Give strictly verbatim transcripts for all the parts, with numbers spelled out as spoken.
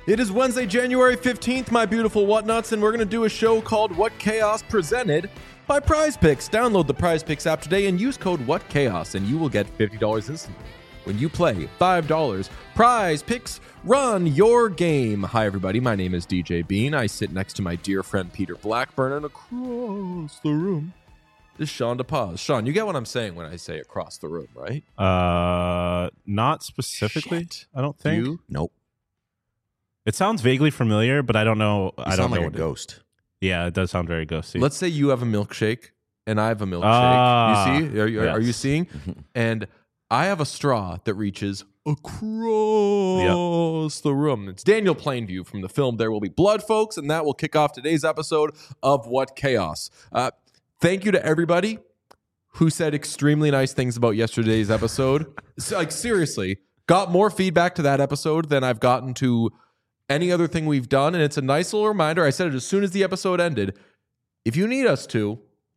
It is Wednesday, January fifteenth, my beautiful whatnuts, and we're going to do a show called What Chaos, presented by Prize Picks. Download the Prize Picks app today and use code What Chaos, and you will get fifty dollars instantly when you play five dollars. Prize Picks, run your game. Hi, everybody. My name is D J Bean. I sit next to my dear friend Peter Blackburn, and across the room is Sean DePaz. Sean, you get what I'm saying when I say across the room, right? Uh, not specifically. Shit. I don't think. You? Nope. It sounds vaguely familiar, but I don't know. You I don't sound know like a what it- ghost. Yeah, it does sound very ghosty. Let's say you have a milkshake and I have a milkshake. Ah, you see? Are, you- are you yes. seeing? And I have a straw that reaches across the room. It's Daniel Plainview from the film There Will Be Blood, folks, and that will kick off today's episode of What Chaos. Uh, thank you to everybody who said extremely nice things about yesterday's episode. So, like, seriously, got more feedback to that episode than I've gotten to any other thing we've done, and it's a nice little reminder. I said it as soon as the episode ended. If you need us to,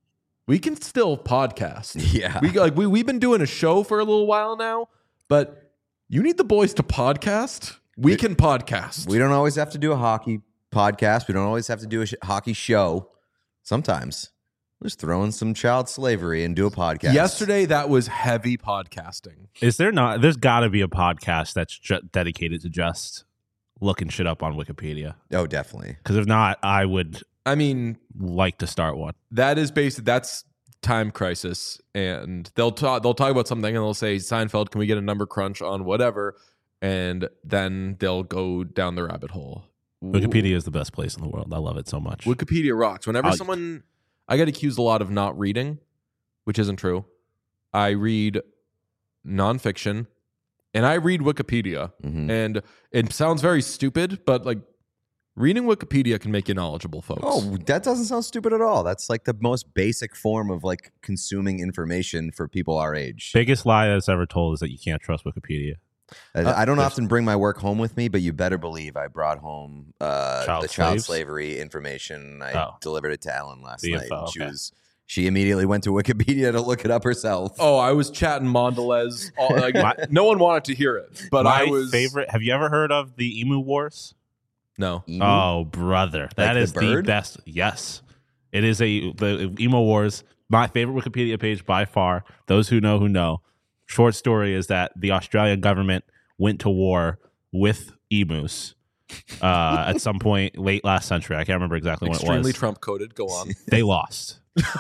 we can still podcast. Yeah. We like we we've been doing a show for a little while now, but you need the boys to podcast. We We- can podcast. We don't always have to do a hockey podcast. We don't always have to do a sh- hockey show. Sometimes we're just throwing some child slavery and do a podcast. Yesterday, that was heavy podcasting. Is there not? There's got to be a podcast that's ju- dedicated to just looking shit up on Wikipedia. Oh, definitely. Because if not, I would I mean, like to start one. that is basically that's Time Crisis, and they'll talk they'll talk about something and they'll say, Seinfeld, can we get a number crunch on whatever? And then they'll go down the rabbit hole. Wikipedia is the best place in the world. I love it so much. Wikipedia rocks. Whenever I- someone, I get accused a lot of not reading, which isn't true. I read nonfiction, and I read Wikipedia, Mhm. and it sounds very stupid, but like reading Wikipedia can make you knowledgeable, folks. Oh, that doesn't sound stupid at all. That's like the most basic form of like consuming information for people our age. Biggest lie that's ever told is that you can't trust Wikipedia. I, Uh, I don't there's- often bring my work home with me, but you better believe I brought home uh, Child the child slaves? slavery information. I Oh. delivered it to Ellen last The night. info, and She okay. was she immediately went to Wikipedia to look it up herself. Oh, I was chatting Mondelez. All, like, My- no one wanted to hear it, but My I was favorite. Have you ever heard of the Emu Wars? No, Emu? Oh, brother, that the is the, bird? best. Yes, it is a the Emo Wars. My favorite Wikipedia page by far. Those who know who know. Short story is that the Australian government went to war with emus uh, at some point late last century. I can't remember exactly when it extremely was. Trump coded. Go on. They lost.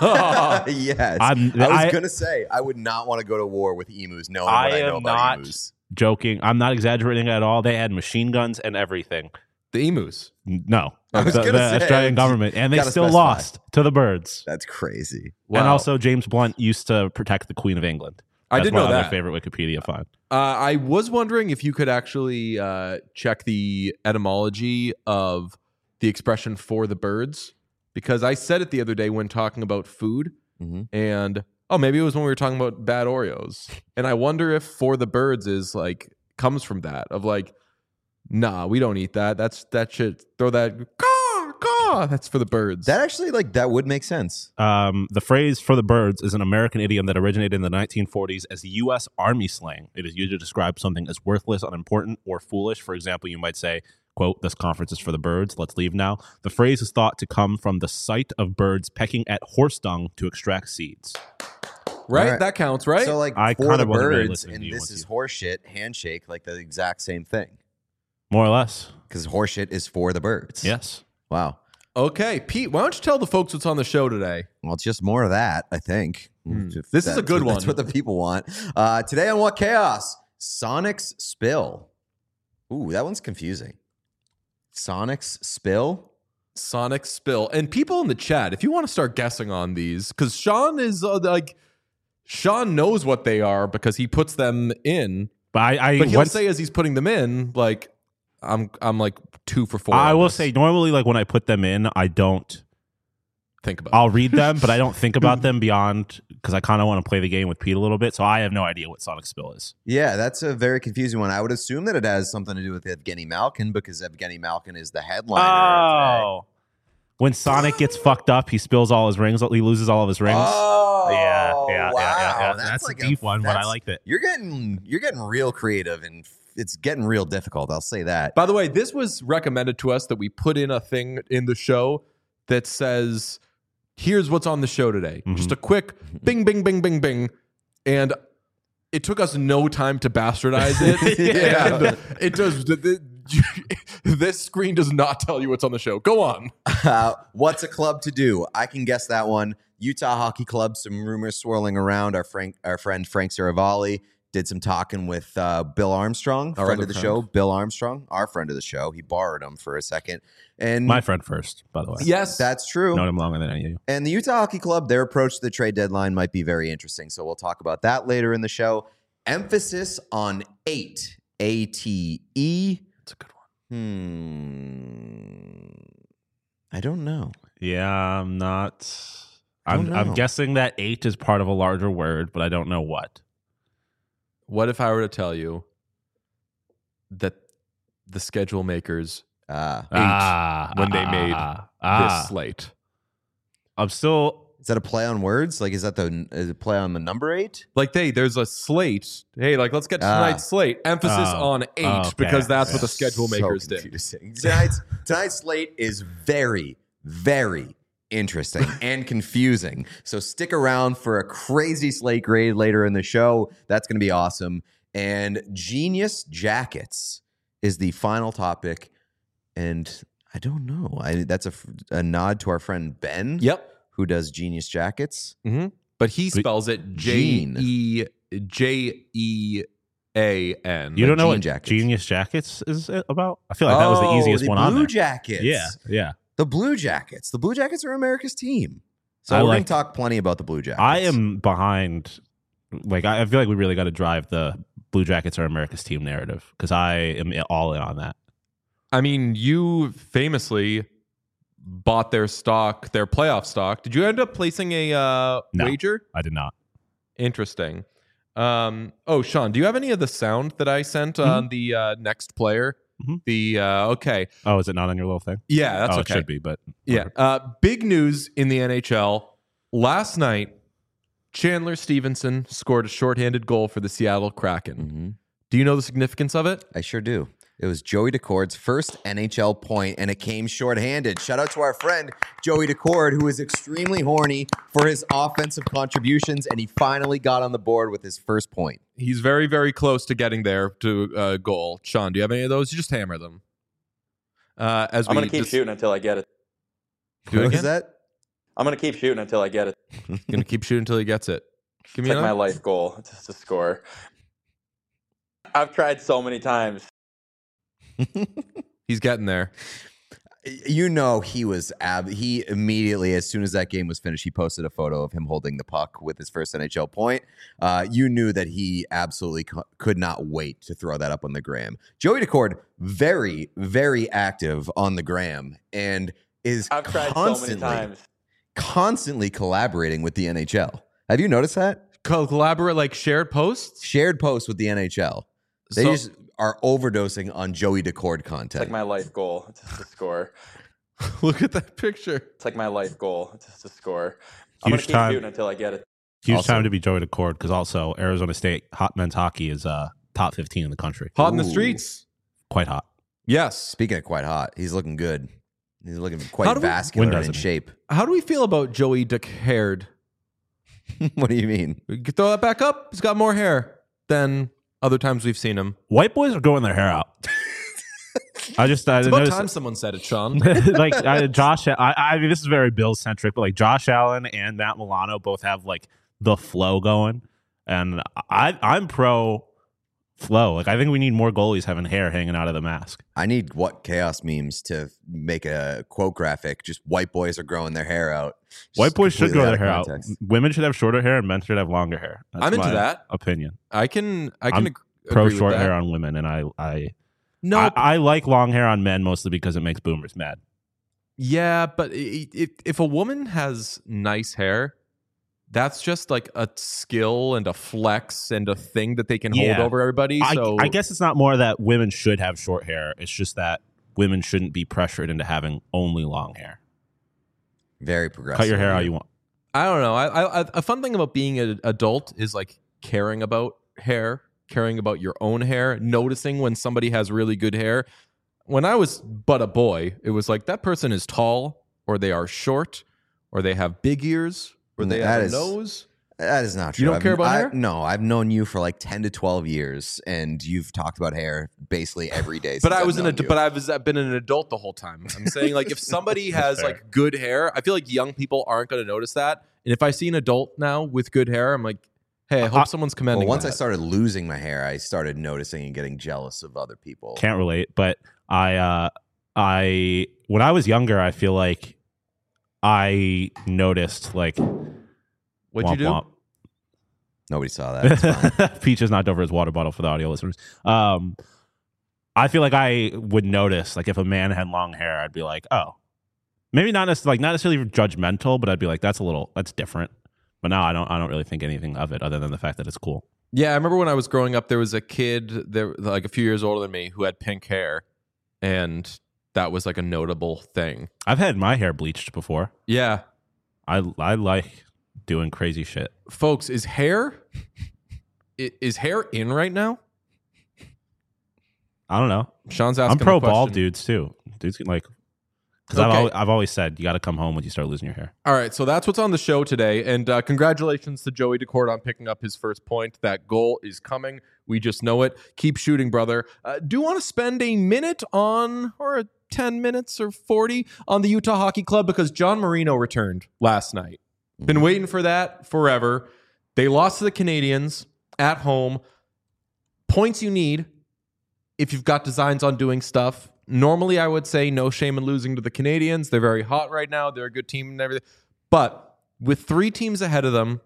yes. I'm- I was I- gonna say I would not want to go to war with emus knowing I what I know am about not- emus. Joking. I'm not exaggerating at all. They had machine guns and everything. The emus. No, I was the, gonna the say, Australian government, and they gotta still specify. lost to the birds. That's crazy. Wow. And also, James Blunt used to protect the Queen of England. I That's did my know other that. favorite Wikipedia find. Uh, I was wondering if you could actually uh, check the etymology of the expression "for the birds," because I said it the other day when talking about food, Mhm. and oh, maybe it was when we were talking about bad Oreos, and I wonder if "for the birds" is like comes from that of like, nah, we don't eat that. That's that shit. Throw that. Caw, caw. That's for the birds. That actually like that would make sense. Um, the phrase "for the birds" is an American idiom that originated in the nineteen forties as U S Army slang. It is used to describe something as worthless, unimportant, or foolish. For example, you might say, quote, "This conference is for the birds. Let's leave now." The phrase is thought to come from the sight of birds pecking at horse dung to extract seeds. right. Alright. That counts, right? So like I for kinda the wasn't very birds listening and to you this once is you- horseshit, handshake, like the exact same thing. More or less. Because horseshit is for the birds. Yes. Wow. okay, Pete, why don't you tell the folks what's on the show today? Well, it's just more of that, I think. Hmm. If This is a that's good what- That's one. what the people want. Uh, today on What Chaos? Sonic's Spill. Ooh, that one's confusing. Sonic's Spill? Sonic Spill. And people in the chat, if you want to start guessing on these, because Sean is uh, like, Sean knows what they are because he puts them in. But I, I But he'll once- say as he's putting them in, like, I'm I'm like two for four. I on will this. say normally, like when I put them in, I don't. think about I'll read them, but I don't think about them beyond because I kind of want to play the game with Pete a little bit. So I have no idea what Sonic Spill is. Yeah, that's a very confusing one. I would assume that it has something to do with Evgeny Malkin because Evgeny Malkin is the headliner. Oh, when Sonic gets fucked up, he spills all his rings. He loses all of his rings. Oh, Yeah. Oh, Yeah, wow. yeah, yeah, yeah. That's, That's, like a deep one, but I that's- liked it. You're getting you're getting real creative, and it's getting real difficult. I'll say that. By the way, this was recommended to us that we put in a thing in the show that says, here's what's on the show today. Mhm. Just a quick bing, bing, bing, bing, bing. And it took us no time to bastardize it. Yeah. And it does. The, the, this screen does not tell you what's on the show. Go on. Uh, what's a club to do? I can guess that one. Utah Hockey Club. Some rumors swirling around. Our Frank, our friend Frank Saravalli did some talking with uh, Bill Armstrong, Our friend other of the friend. show. Bill Armstrong, our friend of the show. He borrowed him for a second, and My friend first, by the way. Yes. that's true. Known him longer than any of you. And the Utah Hockey Club, their approach to the trade deadline might be very interesting. So we'll talk about that later in the show. Emphasis on eight. A T E. That's a good one. Hmm. I don't know. Yeah, I'm not. I don't I'm, I'm know. guessing that eight is part of a larger word, but I don't know what. What if I were to tell you that the schedule makers Uh, Eight, ah, when they ah, made ah, ah. this slate? I'm still. is that a play on words? Like, is that the is it play on the number eight? Like they, there's a slate. Hey, like let's get to Ah. tonight's slate. Emphasis Oh. on eight Oh, okay. because that's what Yeah. the schedule So makers did. confusing. Tonight's tonight's slate is very, very interesting and confusing. So stick around for a crazy slate grade later in the show. That's going to be awesome. And Genius Jackets is the final topic. And I don't know. I, that's a, a nod to our friend Ben, Yep. who does Genius Jackets. Mm-hmm. But he spells it J Gene. E J E A N. You don't know Jean what Jackets. Genius Jackets is about? I feel like that was the Oh, easiest the one on Blue there. Jackets. Yeah, yeah. The Blue Jackets. The Blue Jackets are America's team. So I we're going like- to talk plenty about the Blue Jackets. I am behind. Like I I feel like we really got to drive the Blue Jackets are America's team narrative because I am all in on that. I mean, you famously bought their stock, their playoff stock. Did you end up placing a uh, No. wager? I did not. Interesting. Um, oh, Sean, do you have any of the sound that I sent Mm-hmm. on the uh, next player? Mhm. The uh, okay, Oh, is it not on your little thing? yeah, that's oh, okay. it should be, but Yeah. Uh, big news in the N H L. Last night, Chandler Stevenson scored a shorthanded goal for the Seattle Kraken. Mhm. Do you know the significance of it? I sure do. It was Joey Decord's first N H L point, and it came shorthanded. Shout out to our friend Joey Decord, who is extremely horny for his offensive contributions, and he finally got on the board with his first point. He's very, very close to getting there to a uh, goal. Sean, do you have any of those? You just hammer them. Uh, as I'm we gonna keep just- shooting until I get it. Do it What again? was that? I'm gonna keep shooting until I get it. Gonna keep shooting until he gets it. Give It's me like my another. life goal just to score. I've tried so many times. He's getting there. You know, he was ab. He immediately, as soon as that game was finished, he posted a photo of him holding the puck with his first N H L point. Uh, you knew that he absolutely co- could not wait to throw that up on the gram. Joey Decord, very, very active on the gram, and is I've tried so constantly, many times. constantly collaborating with the N H L. Have you noticed that? Collaborate, like shared posts. Shared posts with the N H L. They So- just are overdosing on Joey Decord It's content. like my life goal just to score. Look at that picture. It's like my life goal just to score. Huge I'm gonna keep time. shooting until I get it. huge Also- time to be Joey Decord because also Arizona State hot men's hockey is uh, top fifteen in the country. Hot in the Ooh. streets. Quite hot. Yes. Speaking of quite hot, he's looking good. He's looking How quite do we- vascular When and doesn't in he? shape. How do we feel about Joey Decard? What do you mean? We could throw that back up. He's got more hair than other times we've seen him. White boys are growing their hair out. I just I It's about noticed, time someone said it, Sean. like I, Josh. I, I mean, this is very Bill centric, but like Josh Allen and Matt Milano both have like the flow going, and I I'm pro flow. Like I think we need more goalies having hair hanging out of the mask. I need what chaos memes to make a quote graphic. Just white boys are growing their hair out. Just White boys should completely grow out their of hair out. context. Women should have shorter hair, and men should have longer hair. That's I'm into my that. opinion. I can. I can I'm ag- Pro agree with short that. hair on women, and I I, No. I I like long hair on men mostly because it makes boomers mad. yeah, but i- i- if a woman has nice hair, that's just like a skill and a flex and a thing that they can Yeah. hold over everybody. I, So I guess it's not more that women should have short hair. It's just that women shouldn't be pressured into having only long hair. Very progressive. Cut your hair of how you. you want. I don't know. I, I, a fun thing about being an adult is like caring about hair, caring about your own hair, noticing when somebody has really good hair. When I was but a boy, it was like that person is tall, or they are short, or they have big ears, or they That have a is- nose. That is not true. You don't I've- care about I- hair? No, I've known you for like ten to twelve years, and you've talked about hair basically every day. But since I I've was an known ad- you. but I was I've been an adult the whole time. I'm saying like if somebody has fair. like good hair, I feel like young people aren't going to notice that. And if I see an adult now with good hair, I'm like, hey, I hope Uh, someone's Well, commending. once that. I started losing my hair, I started noticing and getting jealous of other people. Can't relate, but I, uh, I when I was younger, I feel like I noticed like What'd womp you do? womp. Nobody saw that. It's fine. Peach has knocked over his water bottle for the audio listeners. Um, I feel like I would notice, like, if a man had long hair, I'd be like, oh, maybe not necessarily, like, not necessarily judgmental, but I'd be like, that's a little, that's different. But now I don't, I don't really think anything of it other than the fact that it's cool. Yeah, I remember when I was growing up, there was a kid there, like a few years older than me, who had pink hair, and that was like a notable thing. I've had my hair bleached before. Yeah, I, I like doing crazy shit. folks, is hair i- is hair in right now? I don't know. Sean's asking. I'm pro a question. bald dudes too. Dudes can like, because I've, Okay. always, I've always said you got to come home when you start losing your hair. All right, so that's what's on the show today, and uh, congratulations to Joey Decourt on picking up his first point. That goal is coming. We just know it. Keep shooting, brother. Uh, do you want to spend a minute on, or ten minutes or forty on the Utah Hockey Club, because John Marino returned last night. Been waiting for that forever. They lost to the Canadians at home. Points you need if you've got designs on doing stuff. Normally, I would say no shame in losing to the Canadians. They're very hot right now. They're a good team and everything. But with three teams ahead of them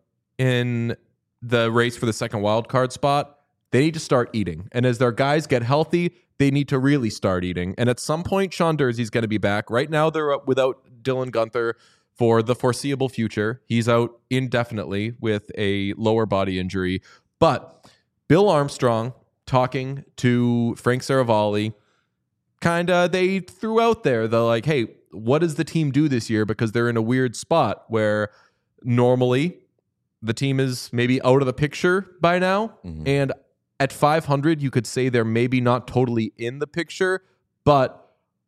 in the race for the second wild card spot, they need to start eating. And as their guys get healthy, they need to really start eating. And at some point, Sean Durzee's going to be back. Right now, they're up without Dylan Gunther for the foreseeable future. He's out indefinitely with a lower body injury. But Bill Armstrong talking to Frank Saravalli, kind of, they threw out there the like, hey, what does the team do this year? Because they're in a weird spot where normally the team is maybe out of the picture by now. Mhm. And at five hundred, you could say they're maybe not totally in the picture, but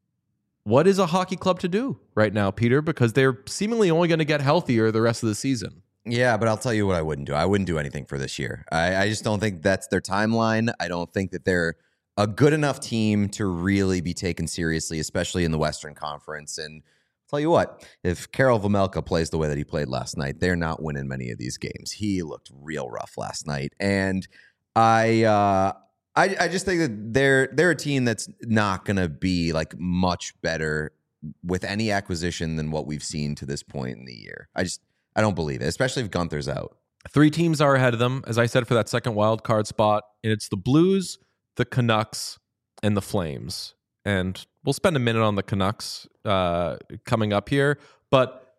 what is a hockey club to do right now, Peter? Because they're seemingly only going to get healthier the rest of the season. Yeah, but I'll tell you what I wouldn't do. I wouldn't do anything for this year. I, I just don't think that's their timeline. I don't think that they're a good enough team to really be taken seriously, especially in the Western Conference. And I'll tell you what, if Karel Vejmelka plays the way that he played last night, they're not winning many of these games. He looked real rough last night. And I uh, I, I just think that they're they're a team that's not going to be like much better with any acquisition than what we've seen to this point in the year. I just I don't believe it, especially if Gunther's out. Three teams are ahead of them, as I said, for that second wild card spot. And it's the Blues, the Canucks, and the Flames. And we'll spend a minute on the Canucks uh, coming up here. But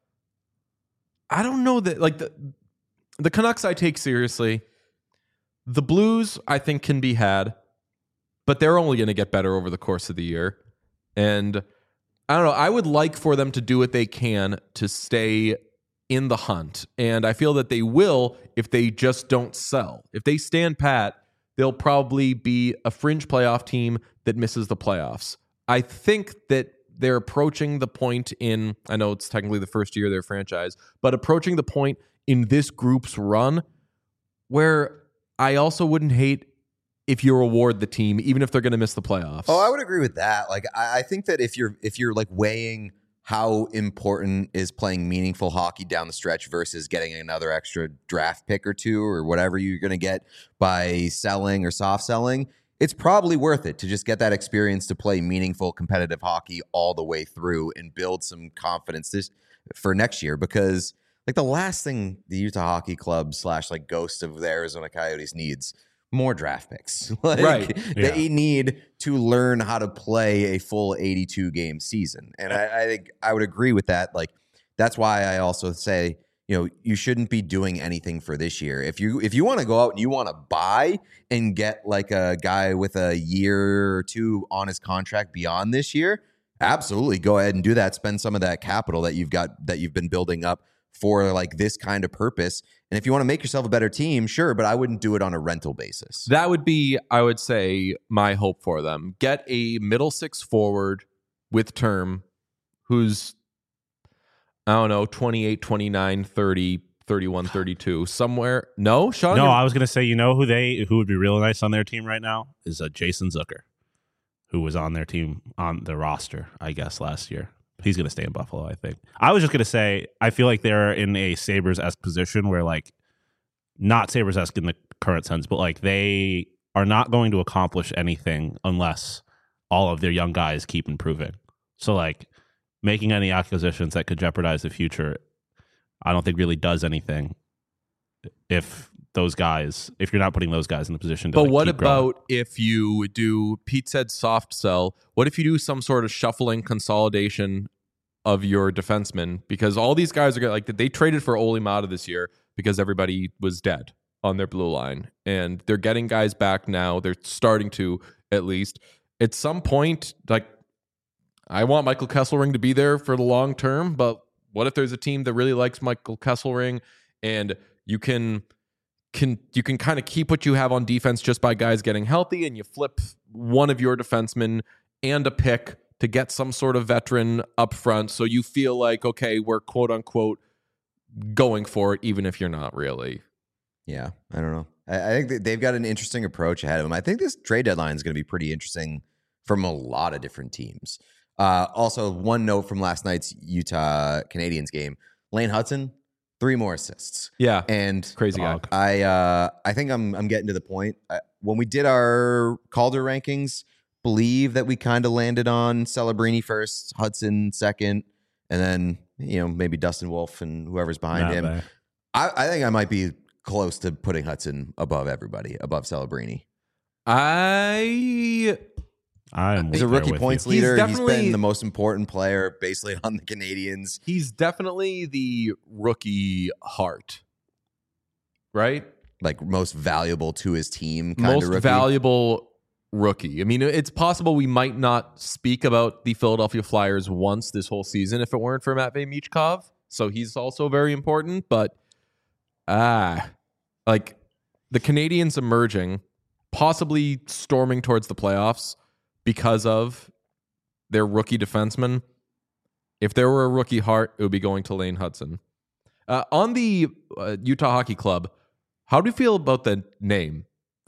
I don't know that, like, the, the Canucks I take seriously. The Blues, I think, can be had. But they're only going to get better over the course of the year. And I don't know. I would like for them to do what they can to stay in the hunt. And I feel that they will if they just don't sell. If they stand pat, they'll probably be a fringe playoff team that misses the playoffs. I think that they're approaching the point in, I know it's technically the first year of their franchise, but approaching the point in this group's run where I also wouldn't hate if you reward the team, even if they're going to miss the playoffs. Oh, I would agree with that. Like, I, I think that if you're if you're like weighing how important is playing meaningful hockey down the stretch versus getting another extra draft pick or two or whatever you're going to get by selling or soft selling, it's probably worth it to just get that experience to play meaningful competitive hockey all the way through and build some confidence this for next year. Because like the last thing the Utah Hockey Club slash like ghost of the Arizona Coyotes needs more draft picks. Like, Right. They need to learn how to play a full eighty-two game season. And I, I think I would agree with that. Like, that's why I also say, you know, you shouldn't be doing anything for this year. If you if you want to go out and you want to buy and get like a guy with a year or two on his contract beyond this year, absolutely go ahead and do that. Spend some of that capital that you've got that you've been building up for like this kind of purpose. And if you want to make yourself a better team, sure, but I wouldn't do it on a rental basis. That would be, I would say, my hope for them. Get a middle six forward with term who's, I don't know, twenty-eight, twenty-nine, thirty, thirty-one, thirty-two, somewhere. No, Sean? No, I was going to say, you know who they who would be really nice on their team right now is uh, Jason Zucker, who was on their team, on the roster, I guess, last year. He's going to stay in Buffalo, I think. I was just going to say, I feel like they're in a Sabres-esque position where, like, not Sabres-esque in the current sense, but, like, they are not going to accomplish anything unless all of their young guys keep improving. So, like, making any acquisitions that could jeopardize the future, I don't think really does anything if those guys, if you're not putting those guys in the position to But like, what keep about growing. if you do, Pete said soft sell, what if you do some sort of shuffling consolidation of your defensemen? Because all these guys are going like, they traded for Oli Mata this year because everybody was dead on their blue line. And they're getting guys back now. They're starting to, at least. At some point, like, I want Michael Kesselring to be there for the long term, but what if there's a team that really likes Michael Kesselring and you can... Can you can kind of keep what you have on defense just by guys getting healthy, and you flip one of your defensemen and a pick to get some sort of veteran up front, so you feel like, okay, we're quote unquote going for it, even if you're not really. Yeah, I don't know. I, I think that they've got an interesting approach ahead of them. I think this trade deadline is going to be pretty interesting from a lot of different teams. Uh, also, one note from last night's Utah Canadiens game: Lane Hudson. Three more assists. Yeah, and crazy guy. I uh, I think I'm I'm getting to the point. I, when we did our Calder rankings, believe that we kind of landed on Celebrini first, Hudson second, and then you know maybe Dustin Wolf and whoever's behind Not him. bad. I, I think I might be close to putting Hudson above everybody, above Celebrini. I I'm He's a there rookie with points you. leader. He's He's definitely- been the most important player basically on the Canadiens. he's definitely the rookie heart, right? Like most valuable to his team, kind Most of rookie. valuable rookie. I mean, it's possible we might not speak about the Philadelphia Flyers once this whole season if it weren't for Matvei Michkov. So he's also very important. But ah, like the Canadiens emerging, possibly storming towards the playoffs because of their rookie defenseman. If there were a rookie heart, it would be going to Lane Hudson. Uh, on the uh, Utah Hockey Club, how do you feel about the name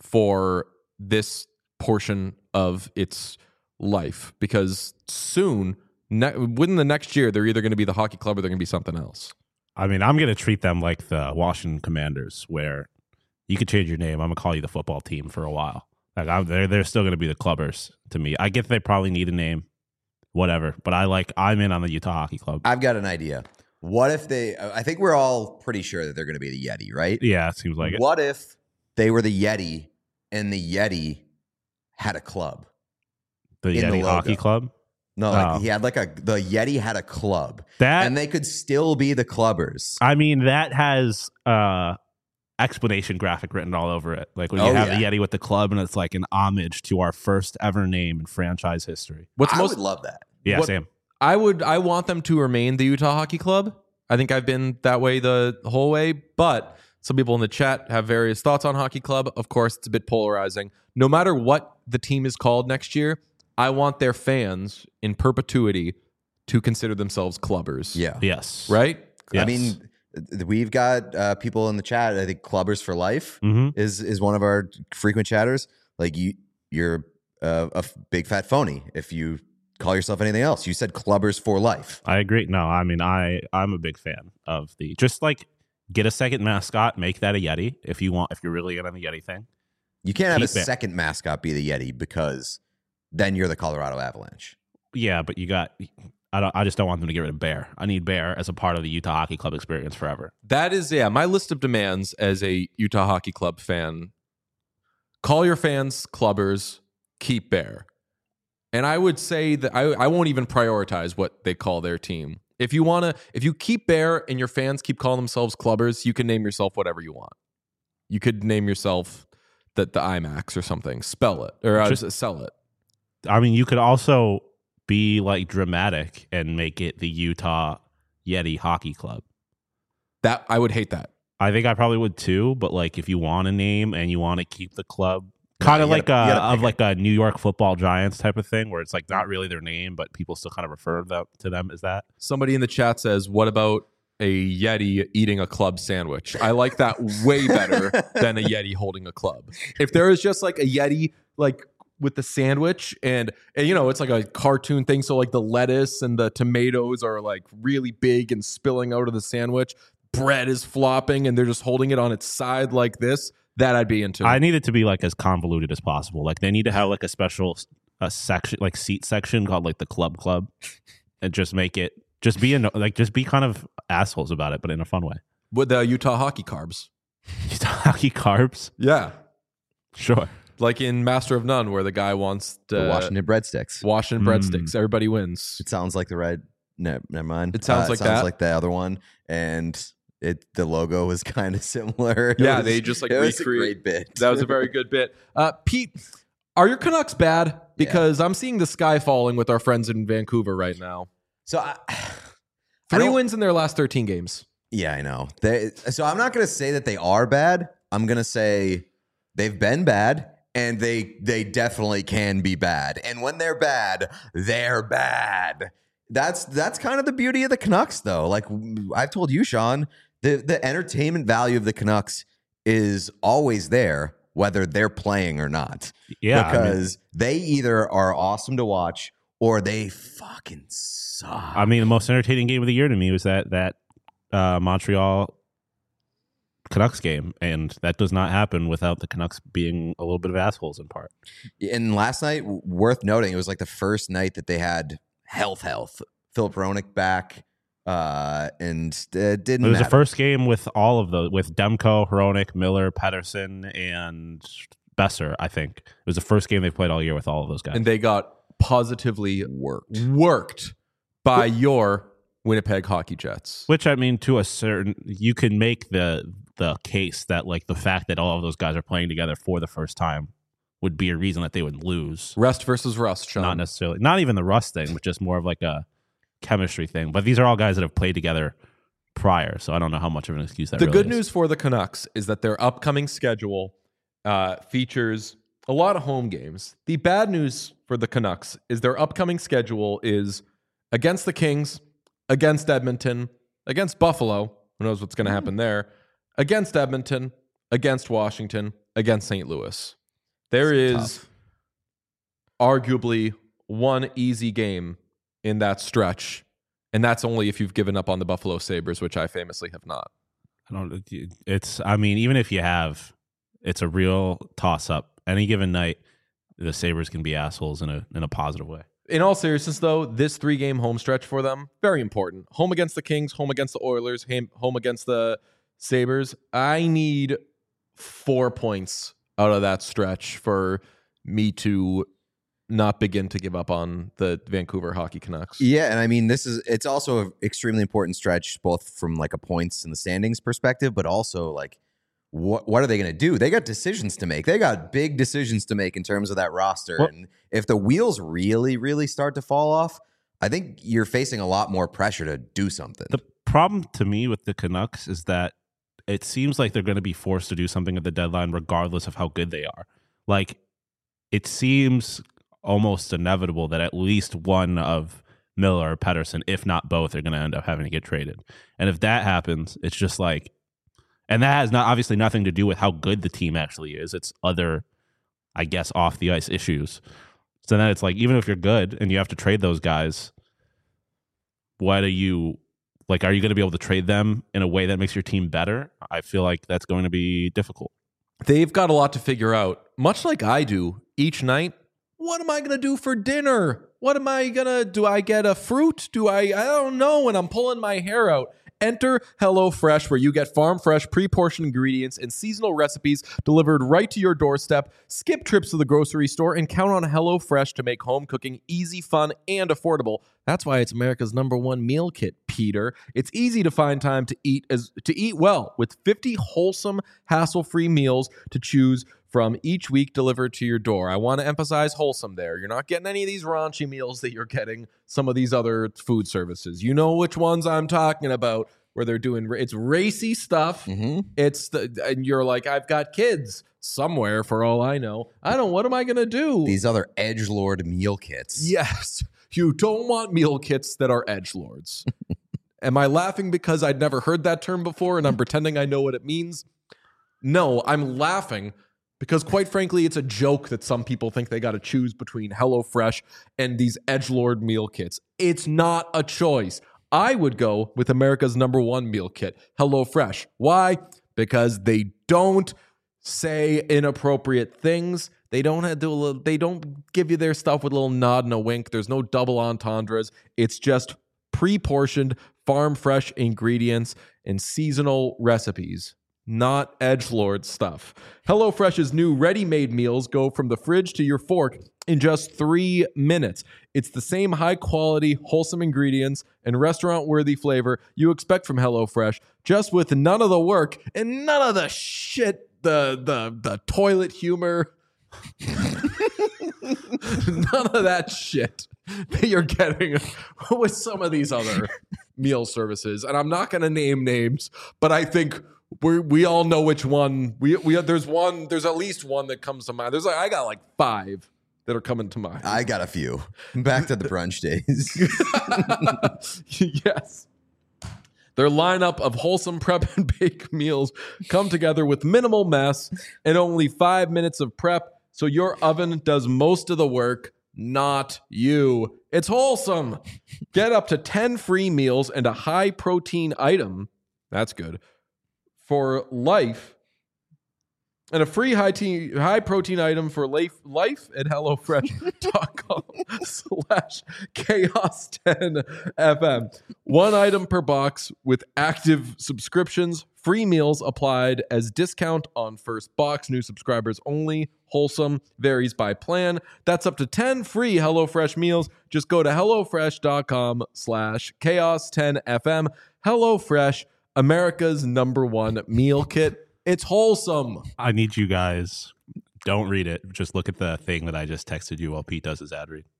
for this portion of its life? Because soon, ne- within the next year, they're either going to be the hockey club or they're going to be something else. I mean, I'm going to treat them like the Washington Commanders, where you could change your name. I'm going to call you the football team for a while. Like I'm, they're they're still going to be the Clubbers to me. I get they probably need a name, whatever. But I like I'm in on the Utah Hockey Club. I've got an idea. What if they, I think we're all pretty sure that they're going to be the Yeti, right? Yeah, it seems like it. What if they were the Yeti and the Yeti had a club? The in the Yeti logo. Hockey Club. No, like Oh. he had like a, the Yeti had a club. That and they could still be the Clubbers. I mean, that has uh explanation graphic written all over it. Like when you Oh, have yeah. the Yeti with the club, and it's like an homage to our first ever name in franchise history. What's I most would love that. Yeah, What- Sam. I would I want them to remain the Utah Hockey Club. I think I've been that way the whole way, but some people in the chat have various thoughts on Hockey Club. Of course, it's a bit polarizing. No matter what the team is called next year, I want their fans in perpetuity to consider themselves clubbers. Yeah. Yes. Right? I Yes. mean, th- we've got uh, people in the chat. I think Clubbers for Life Mm-hmm. is is one of our frequent chatters. Like you, you're uh, a f- big fat phony if you call yourself anything else. You said Clubbers for Life. I agree. No, I mean, I I'm a big fan of the just like get a second mascot, make that a Yeti if you want. If you're really in on the Yeti thing, You can't have a Keep it. second mascot be the Yeti because then you're the Colorado Avalanche. yeah, but you got. I don't. I just don't want them to get rid of Bear. I need Bear as a part of the Utah Hockey Club experience forever. That is, yeah, my list of demands as a Utah Hockey Club fan. Call your fans clubbers, keep Bear. And I would say that I, I won't even prioritize what they call their team. If you want to, if you keep Bear and your fans keep calling themselves clubbers, you can name yourself whatever you want. You could name yourself the, the IMAX or something. Spell it or uh, Just- sell it. I mean, you could also be like dramatic and make it the Utah Yeti Hockey Club. That I would hate that. I think I probably would too. But like, if you want a name and you want to keep the club, kind of you like gotta- you a, gotta of pick like a New York Football Giants type of thing, where it's like not really their name, but people still kind of refer them, to them as that. Somebody in the chat says, "What about a Yeti eating a club sandwich?" I like that way better than a Yeti holding a club. If there is just like a Yeti, like with the sandwich, and, and you know, it's like a cartoon thing, so like the lettuce and the tomatoes are like really big and spilling out of the sandwich. Bread is flopping, and they're just holding it on its side like this. That I'd be into. I need it to be like as convoluted as possible. Like they need to have like a special a section, like seat section called like the club club, and just make it just be in like just be kind of assholes about it, but in a fun way. With the Utah hockey carbs. Utah hockey carbs, Yeah. sure. Like in Master of None, where the guy wants to The Washington breadsticks. Washington Mm. breadsticks. Everybody wins. It sounds like the red. No, never mind. It sounds like sounds that. like the other one, and it the logo was kind of similar. It Yeah, was- they just like it was a recreate. great bit. That was a very good bit. Uh, Pete, are your Canucks bad? Because I'm seeing the sky falling with our friends in Vancouver right now. so. I, I Three don't- wins in their last thirteen games. Yeah, I know. They, so I'm not going to say that they are bad. I'm going to say they've been bad, and they they definitely can be bad. And when they're bad, they're bad. That's that's kind of the beauty of the Canucks, though. Like I've told you, Sean, the the entertainment value of the Canucks is always there, whether they're playing or not. Yeah, I mean- because they either are awesome to watch or they fucking suck. I mean, the most entertaining game of the year to me was that that uh, Montreal Canucks game, and that does not happen without the Canucks being a little bit of assholes in part. And last night, w- worth noting, it was like the first night that they had health, health. Philip Hronik back, uh, and uh, didn't. It was the matter. first game with all of those, with Demko, Hronik, Miller, Pedersen, and Besser. I think it was the first game they played all year with all of those guys. And they got positively worked. worked by your Winnipeg Hockey Jets. Which, I mean, to a certain, you can make the the case that like the fact that all of those guys are playing together for the first time would be a reason that they would lose. Rust versus rust, Sean. Not necessarily, not even the rust thing, but just more of like a chemistry thing. But these are all guys that have played together prior, so I don't know how much of an excuse that The really good is. news for the Canucks is that their upcoming schedule uh, features a lot of home games. The bad news for the Canucks is their upcoming schedule is against the Kings, against Edmonton, against Buffalo. Who knows what's going to happen there? Against Edmonton, against Washington, against Saint Louis. There It's is arguably one easy game in that stretch, and that's only if you've given up on the Buffalo Sabres, which I famously have not. I don't. It's. I mean, even if you have, it's a real toss up. Any given night, the Sabres can be assholes in a in a positive way. In all seriousness, though, this three-game home stretch for them, very important. Home against the Kings, home against the Oilers, ham- home against the Sabres. I need four points out of that stretch for me to not begin to give up on the Vancouver Hockey Canucks. Yeah, and I mean, this is it's also an extremely important stretch, both from like a points and the standings perspective, but also like what what are they going to do? They got decisions to make. They got big decisions to make in terms of that roster. Well- and if the wheels really, really start to fall off, I think you're facing a lot more pressure to do something. The problem to me with the Canucks is that it seems like they're going to be forced to do something at the deadline, regardless of how good they are. Like, it seems almost inevitable that at least one of Miller or Pedersen, if not both, are going to end up having to get traded. And if that happens, it's just like, and that has not obviously nothing to do with how good the team actually is. It's other, I guess, off the ice issues. So then it's like, even if you're good and you have to trade those guys, what are you like? Are you going to be able to trade them in a way that makes your team better? I feel like that's going to be difficult. They've got a lot to figure out, much like I do each night. What am I going to do for dinner? What am I going to do? I get a fruit? Do I? I don't know when I'm pulling my hair out. Enter HelloFresh, where you get farm fresh, pre-portioned ingredients and seasonal recipes delivered right to your doorstep. Skip trips to the grocery store and count on HelloFresh to make home cooking easy, fun, and affordable. That's why it's America's number one meal kit, Peter. It's easy to find time to eat as to eat well with fifty wholesome, hassle-free meals to choose from each week delivered to your door. I want to emphasize wholesome there. You're not getting any of these raunchy meals that you're getting some of these other food services. You know which ones I'm talking about. where they're doing it's racy stuff. Mm-hmm. It's the and you're like, I've got kids somewhere for all I know. I don't. What am I gonna do? These other edgelord meal kits. Yes, you don't want meal kits that are edgelords. Am I laughing because I'd never heard that term before and I'm pretending I know what it means? No, I'm laughing because, quite frankly, it's a joke that some people think they got to choose between HelloFresh and these edgelord meal kits. It's not a choice. I would go with America's number one meal kit, HelloFresh. Why? Because they don't say inappropriate things. They don't have to, little, they don't give you their stuff with a little nod and a wink. There's no double entendres. It's just pre-portioned, farm fresh ingredients and seasonal recipes, not edgelord stuff. HelloFresh's new ready-made meals go from the fridge to your fork in just three minutes. It's the same high-quality, wholesome ingredients and restaurant-worthy flavor you expect from HelloFresh, just with none of the work and none of the shit, the the the toilet humor. None of that shit that you're getting with some of these other meal services. And I'm not going to name names, but I think we we all know which one. We we there's one. There's at least one that comes to mind. There's like I got like five that are coming to mind. I got a few. Back to the brunch days. Yes. Their lineup of wholesome prep and bake meals come together with minimal mess and only five minutes of prep, so your oven does most of the work, not you. It's wholesome. Get up to ten free meals and a high-protein item. That's good. For life. And a free high te- high protein item for life, life at HelloFresh.com slash chaos 10 FM. One item per box with active subscriptions. Free meals applied as discount on first box. New subscribers only. Wholesome. Varies by plan. That's up to ten free HelloFresh meals. Just go to HelloFresh.com slash chaos 10 FM. HelloFresh, America's number one meal kit. It's wholesome. I need you guys, don't read it. Just look at the thing that I just texted you while Pete does his ad read.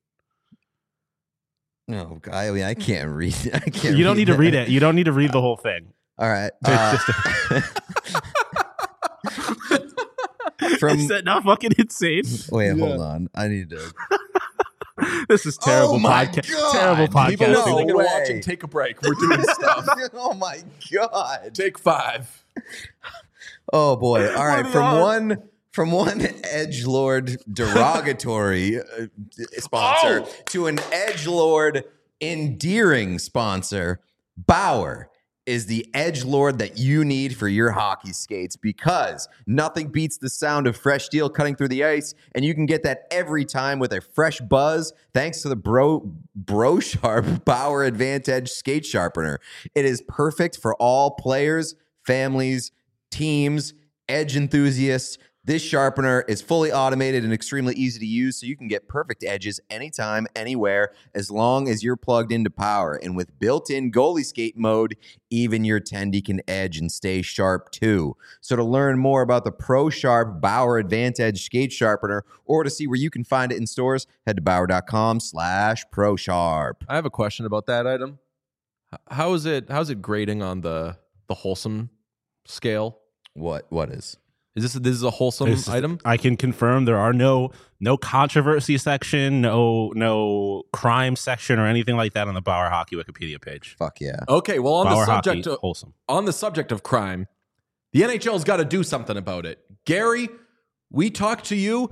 No, I mean, I can't read it. I can't You don't need that. to read it. You don't need to read the whole thing. All right. It's Uh, just from, Is that not fucking insane? wait, Yeah. hold on. I need to. This is terrible Oh my podcast. God. Terrible People podcasting. listening and way. watching, take a break. We're doing stuff. Oh my God. Take five. Oh boy. All right. What From are- one from one edgelord derogatory uh, sponsor Oh. to an edgelord endearing sponsor, Bauer is the edgelord that you need for your hockey skates, because nothing beats the sound of fresh steel cutting through the ice, and you can get that every time with a fresh buzz thanks to the Bro Bro Sharp Bauer Advantage skate sharpener. It is perfect for all players, families, teams, edge enthusiasts. This sharpener is fully automated and extremely easy to use, so you can get perfect edges anytime, anywhere, as long as you're plugged into power. And with built-in goalie skate mode, even your tendy can edge and stay sharp too. So to learn more about the Pro Sharp Bauer Advantage skate sharpener, or to see where you can find it in stores, head to Bauer.com slash Pro Sharp. I have a question about that item. H- How is it? How's it grading on the the wholesome scale? What? What is? Is this this is a wholesome This is- item? I can confirm there are no no controversy section, no no crime section or anything like that on the Bauer Hockey Wikipedia page. Fuck yeah. Okay, well on Bauer the subject Hockey, of, wholesome. on the subject of crime, the N H L's got to do something about it. Gary, we talked to you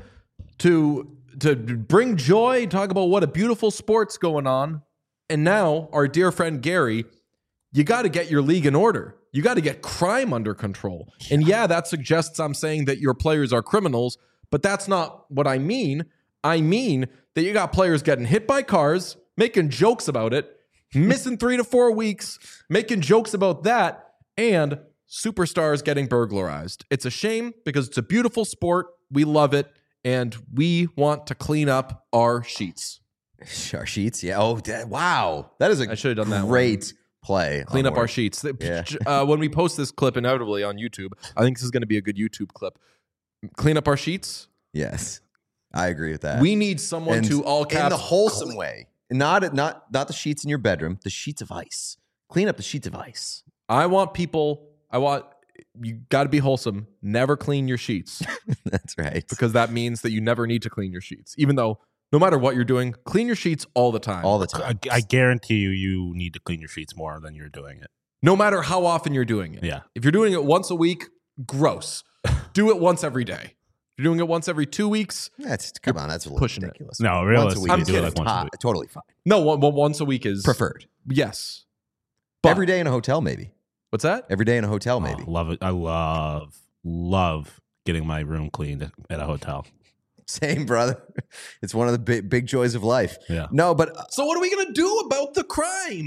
to to bring joy, talk about what a beautiful sport's going on, and now our dear friend Gary, you got to get your league in order. You got to get crime under control. And yeah, that suggests I'm saying that your players are criminals, but that's not what I mean. I mean that you got players getting hit by cars, making jokes about it, missing three to four weeks, making jokes about that, and superstars getting burglarized. It's a shame because it's a beautiful sport. We love it, and we want to clean up our sheets. Our sheets, yeah. Oh, that, wow. That is a I should have done that one. great play. Clean up Onward. our sheets. Yeah. Uh, when we post this clip inevitably on YouTube, I think this is going to be a good YouTube clip. Clean up our sheets. Yes, I agree with that. We need someone And to all caps. in the wholesome way, not not not the sheets in your bedroom, the sheets of ice. Clean up the sheets of ice. I want people, I want, you got to be wholesome. Never clean your sheets That's right. because that means that you never need to clean your sheets. Even though no matter what you're doing, clean your sheets all the time. All the time. I, I guarantee you, you need to clean your sheets more than you're doing it. No matter how often you're doing it. Yeah. If you're doing it once a week, gross. Do it once every day. If you're doing it once every two weeks, That's come on. That's a little pushing it. ridiculous. No, Once a realistically, week I'm is kidding. like once a to- week. totally fine. no, one, one- once a week is Preferred. Yes. But, Every day in a hotel, maybe. What's that? Every day in a hotel, maybe. Oh, love it. I love, love getting my room cleaned at a hotel. Same, brother. It's one of the big, big joys of life. Yeah. No, but uh, So what are we going to do about the crime?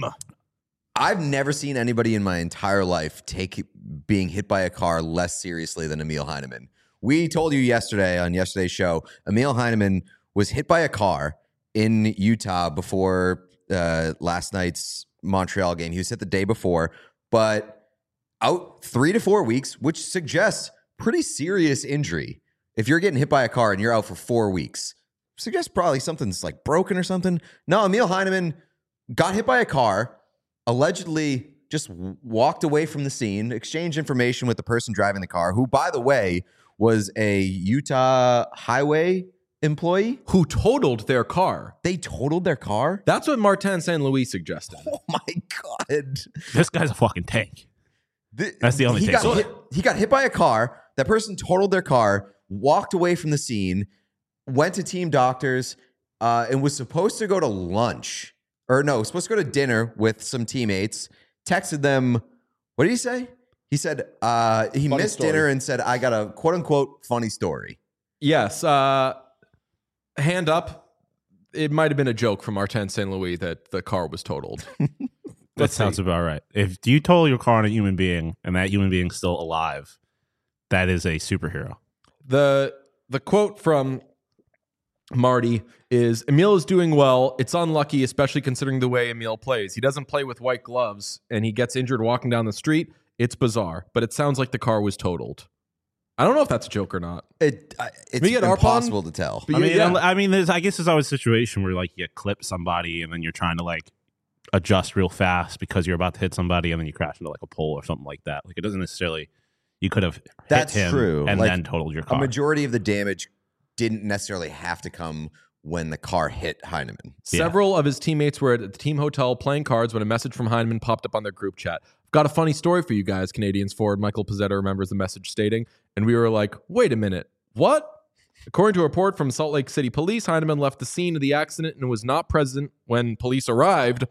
I've never seen anybody in my entire life take being hit by a car less seriously than Emil Heineman. We told you yesterday on yesterday's show, Emil Heineman was hit by a car in Utah before uh, last night's Montreal game. He was hit the day before, but out three to four weeks, which suggests pretty serious injury. If you're getting hit by a car and you're out for four weeks, suggests probably something's like broken or something. No, Emil Heineman got hit by a car, allegedly just walked away from the scene, exchanged information with the person driving the car, who, by the way, was a Utah highway employee. Who totaled their car? They totaled their car? That's what Martin Saint Louis suggested. Oh my God. This guy's a fucking tank. The- That's the only he take. got, hit, he got hit by a car. That person totaled their car, walked away from the scene, went to team doctors, uh, and was supposed to go to lunch. Or no, supposed to go to dinner with some teammates. Texted them, what did he say? He said uh, he Funny missed story. dinner and said, I got a quote unquote funny story. Yes. Uh, hand up. It might have been a joke from Martin Saint Louis that the car was totaled. That Let's sounds see. about right. If you total your car on a human being and that human being's still alive, that is a superhero. The the quote from Marty is, Emil is doing well. It's unlucky, especially considering the way Emil plays. He doesn't play with white gloves and he gets injured walking down the street. It's bizarre, but it sounds like the car was totaled. I don't know if that's a joke or not. It, uh, it's We get Arpon? impossible to tell. But I mean, yeah. I mean, there's, I guess there's always a situation where like you clip somebody and then you're trying to like adjust real fast because you're about to hit somebody and then you crash into like a pole or something like that. Like it doesn't necessarily. You could have hit That's him true. and Like, then totaled your A car. majority of the damage didn't necessarily have to come when the car hit Heineman. Yeah. Several of his teammates were at the team hotel playing cards when a message from Heineman popped up on their group chat. I've got a funny story for you guys, Canadians forward Michael Pizzetta remembers the message stating, and we were like, wait a minute, what? According to a report from Salt Lake City Police, Heineman left the scene of the accident and was not present when police arrived.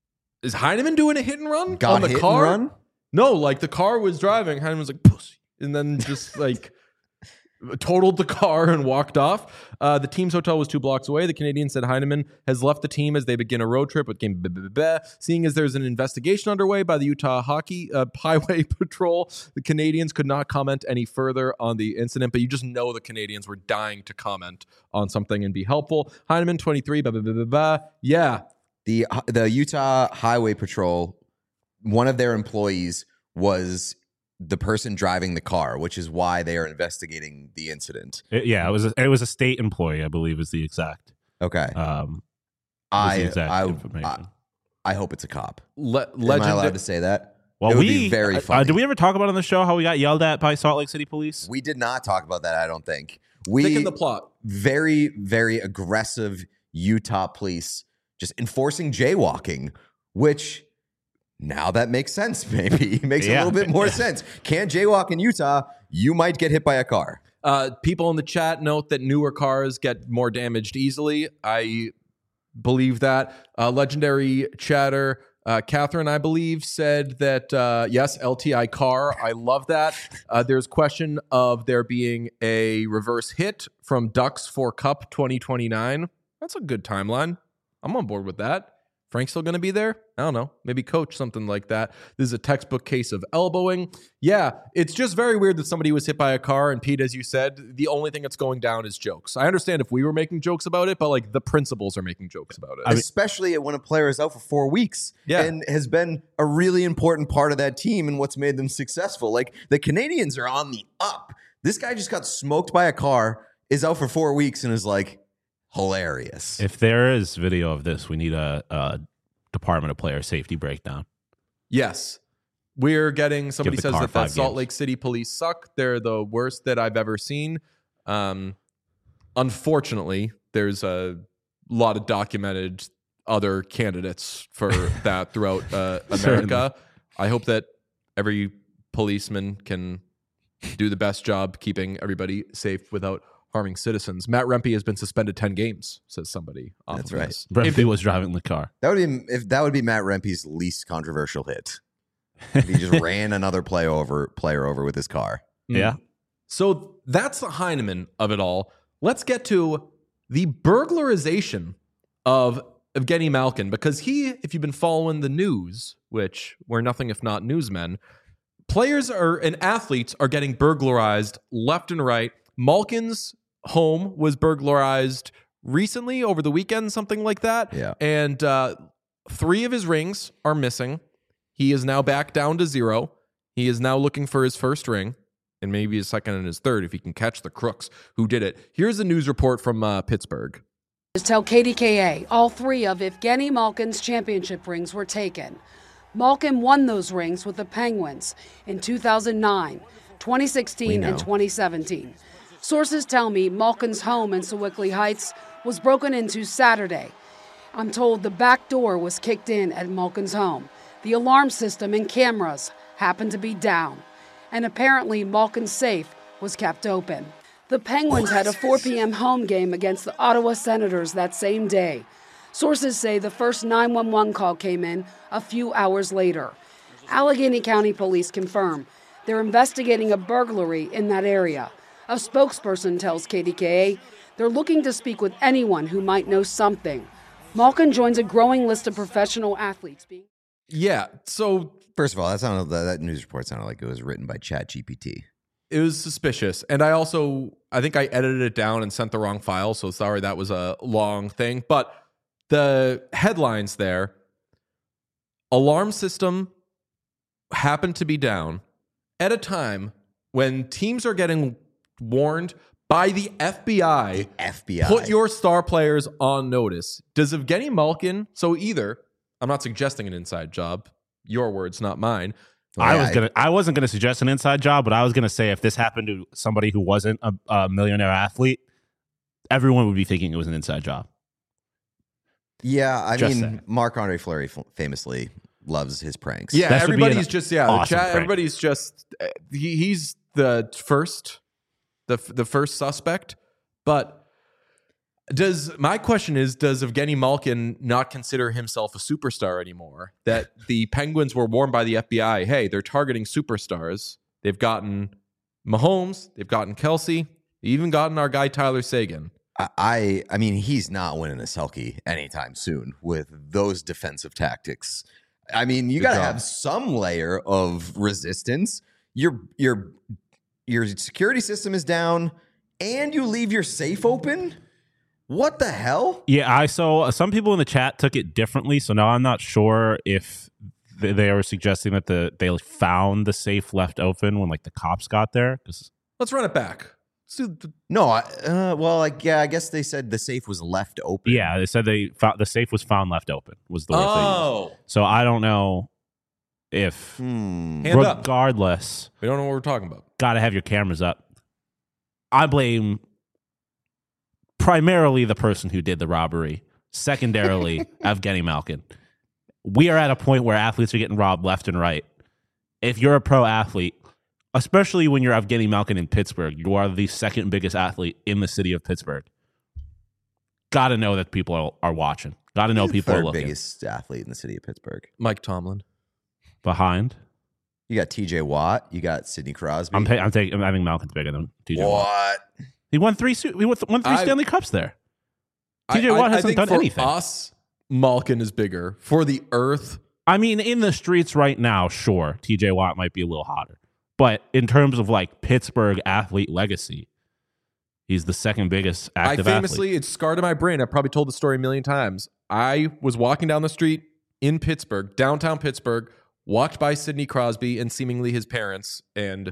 Is Heineman doing a hit and run Got on the hit car? and run? No, like the car was driving. Heineman was like, pussy. And then just like totaled the car and walked off. Uh, the team's hotel was two blocks away. The Canadian said Heineman has left the team as they begin a road trip with game. Blah, blah, blah, blah. Seeing as there's an investigation underway by the Utah Hockey uh, Highway Patrol, the Canadians could not comment any further on the incident. But you just know the Canadians were dying to comment on something and be helpful. Heineman, twenty-three, blah, blah, blah, blah, blah. Yeah. The the Utah Highway Patrol, one of their employees was the person driving the car, which is why they are investigating the incident. It- yeah, it was a, it was a state employee, I believe, is the exact. Okay. Um, was I, the exact I, information. I I hope it's a cop. Le- Am I legend- allowed to say that? well, it would we be very uh, funny. did we ever talk about on the show how we got yelled at by Salt Lake City Police? We did not talk about that, I don't think. Thicken We the plot. very, very aggressive Utah police just enforcing jaywalking, which now that makes sense, maybe. Makes a Yeah. little bit more sense. Can't jaywalk in Utah, you might get hit by a car. Uh, people in the chat note that newer cars get more damaged easily. I believe that. Uh, legendary chatter, uh, Catherine, I believe, said that, uh, yes, L T I car. I love that. Uh, there's question of there being a reverse hit from Ducks for Cup twenty twenty-nine. That's a good timeline. I'm on board with that. Frank's still going to be there? I don't know. Maybe coach, something like that. This is a textbook case of elbowing. Yeah, it's just very weird that somebody was hit by a car. And Pete, as you said, the only thing that's going down is jokes. I understand if we were making jokes about it, but like the principals are making jokes about it. I mean- Especially when a player is out for four weeks Yeah. and has been a really important part of that team and what's made them successful. Like the Canadians are on the up. This guy just got smoked by a car, is out for four weeks, and is like hilarious. If there is video of this, we need a, a Department of Player Safety breakdown. Yes. we're getting, somebody the says car that the five Salt games. Lake City police suck. They're the worst that I've ever seen. Um, unfortunately, there's a lot of documented other candidates for that throughout uh, America. Certainly. I hope that every policeman can do the best job keeping everybody safe without harming citizens. Matt Rempe has been suspended ten games, says somebody. Off That's of right. this. Brent If P it- was driving the car. That would be if that would be Matt Rempe's least controversial hit. If he just ran another play over player over with his car. Yeah. So that's the Heineman of it all. Let's get to the burglarization of Evgeny Malkin, because he, if you've been following the news, which we're nothing if not newsmen, players are and athletes are getting burglarized left and right. Malkin's home was burglarized recently over the weekend, something like that. Yeah. And uh, three of his rings are missing. He is now back down to zero. He is now looking for his first ring and maybe his second and his third if he can catch the crooks who did it. Here's a news report from uh, Pittsburgh. Tell K D K A all three of Evgeny Malkin's championship rings were taken. Malkin won those rings with the Penguins in two thousand nine, twenty sixteen, and twenty seventeen. Sources tell me Malkin's home in Sewickley Heights was broken into Saturday. I'm told the back door was kicked in at Malkin's home. The alarm system and cameras happened to be down. And apparently Malkin's safe was kept open. The Penguins had a four p.m. home game against the Ottawa Senators that same day. Sources say the first nine one one call came in a few hours later. Allegheny County Police confirm they're investigating a burglary in that area. A spokesperson tells K D K A they're looking to speak with anyone who might know something. Malkin joins a growing list of professional athletes being... Yeah, so First of all, that sounded that, that news report sounded like it was written by Chat G P T. it was suspicious. And I also, I think I edited it down and sent the wrong file. So sorry, that was a long thing. But the headlines there, alarm system happened to be down at a time when teams are getting warned by the F B I. F B I. Put your star players on notice. Does Evgeny Malkin, so either, I'm not suggesting an inside job, your words, not mine. I Yeah, was I- gonna. I wasn't gonna suggest an inside job, but I was gonna say if this happened to somebody who wasn't a, a millionaire athlete, everyone would be thinking it was an inside job. Yeah, I Just mean, saying. Marc-Andre Fleury f- famously loves his pranks. Yeah, That should be everybody's an just, yeah, the awesome chat, prank. everybody's just, uh, he, he's the first, the, the first suspect. But does, my question is, does Evgeny Malkin not consider himself a superstar anymore? That the Penguins were warned by the F B I, hey, they're targeting superstars. They've gotten Mahomes, they've gotten Kelsey, they've even gotten our guy Tyler Sagan. I, I I mean, he's not winning a Selkie anytime soon with those defensive tactics. I mean, you Good got to job. have some layer of resistance. Your your your security system is down, and you leave your safe open. What the hell? Yeah, I saw uh, some people in the chat took it differently. So now I'm not sure if th- they were suggesting that the they found the safe left open when like the cops got there. 'Cause- Let's run it back. Let's do the- No, I, uh, well, like yeah, I guess they said the safe was left open. yeah, they said they found the safe was found left open. Was the word they used. Oh, So I don't know if, Hmm. Hand up. regardless, we don't know what we're talking about. got to have your cameras up. I blame primarily the person who did the robbery. Secondarily, Evgeny Malkin. We are at a point where athletes are getting robbed left and right. If you're a pro athlete, especially when you're Evgeny Malkin in Pittsburgh, you are the second biggest athlete in the city of Pittsburgh. Got to know that people are, are watching. Got to know He's the people are third looking. biggest athlete in the city of Pittsburgh. Mike Tomlin. Behind. You got T J Watt. You got Sidney Crosby. I'm, pay, I'm taking. I think Malkin's bigger than T J Watt. what? He won three. su- He won, th- won three I- Stanley Cups there. T J I- Watt I- I hasn't think done for anything. us, Malkin is bigger. For the Earth, I mean, in the streets right now, sure, T J Watt might be a little hotter. But in terms of like Pittsburgh athlete legacy, he's the second biggest active I famously, athlete. it's scarred in my brain. I've probably told the story a million times. I was walking down the street in Pittsburgh, downtown Pittsburgh, walked by Sidney Crosby and seemingly his parents, and n-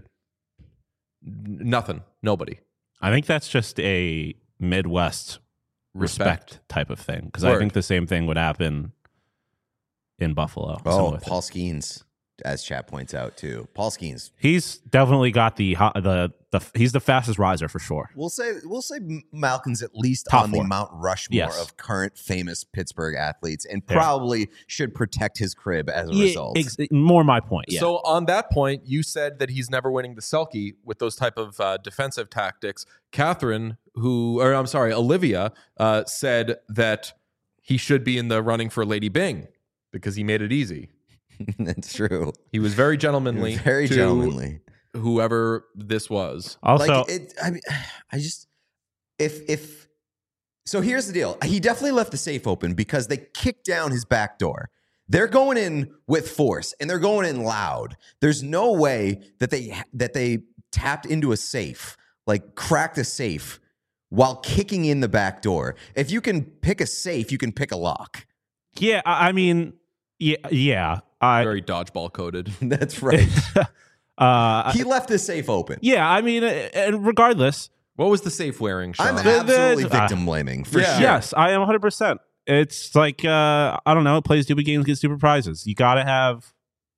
nothing, nobody. I think that's just a Midwest respect, Respect. type of thing. Because I Word. think the same thing would happen in Buffalo. Oh, Similar thing. Paul Skeens. as chat points out too. Paul Skeens. He's definitely got the the the he's the fastest riser for sure. We'll say we'll say Malkin's at least Top on four. the Mount Rushmore Yes. of current famous Pittsburgh athletes, and Yeah. probably should protect his crib as a Yeah, result. ex- more my point. Yeah. So on that point, you said that he's never winning the Selkie with those type of uh, defensive tactics. Catherine, who, or I'm sorry, Olivia, uh, said that he should be in the running for Lady Bing because he made it easy. That's true. He was very gentlemanly. Very to gentlemanly. Whoever this was. also, like it, I mean, I just if if so here's the deal. He definitely left the safe open because they kicked down his back door. They're going in with force and they're going in loud. There's no way that they that they tapped into a safe, like cracked a safe while kicking in the back door. If you can pick a safe, you can pick a lock. yeah, I, I mean, yeah, yeah. I, Very dodgeball coded. That's right. uh, He left the safe open. yeah, I mean, uh, and regardless, What was the safe wearing, Sean? I'm The- absolutely the- victim blaming for Yeah. sure. yes, I am one hundred percent. It's like uh, I don't know, play stupid games, get stupid prizes. You got to have.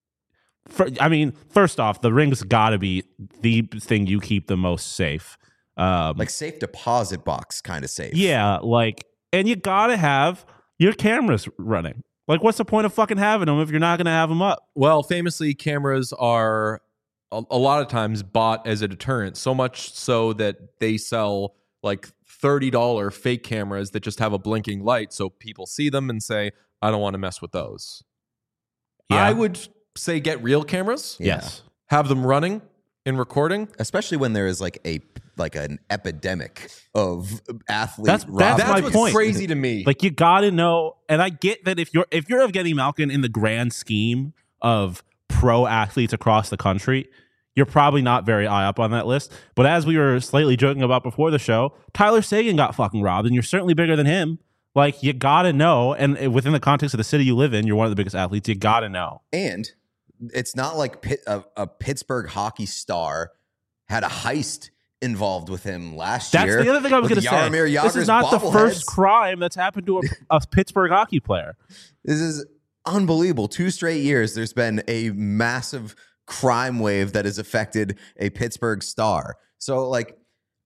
For, I mean, first off, the ring's got to be the thing you keep the most safe. Um, Like safe deposit box kind of safe. yeah, like, and you got to have your cameras running. Like, what's the point of fucking having them if you're not going to have them up? Well, famously, cameras are a, a lot of times bought as a deterrent, so much so that they sell like thirty dollars fake cameras that just have a blinking light so people see them and say, I don't want to mess with those. Yeah. I would say get real cameras, Yeah. Yes. have them running and recording. Especially when there is like a like an epidemic of athlete That's- that's robbing. That's my what's point. crazy to me. Like, you got to know, and I get that if you're if you're Evgeny Malkin in the grand scheme of pro athletes across the country, you're probably not very high up on that list. But as we were slightly joking about before the show, Tyler Sagan got fucking robbed, and you're certainly bigger than him. Like, you got to know, and within the context of the city you live in, you're one of the biggest athletes. You got to know. And it's not like Pitt, a, a Pittsburgh hockey star had a heist involved with him last That's year. the other thing I was with going to say. Jaromir This Jagr's is not the first bobbleheads. crime that's happened to a, a Pittsburgh hockey player. This is unbelievable. Two straight years, there's been a massive crime wave that has affected a Pittsburgh star. So, like,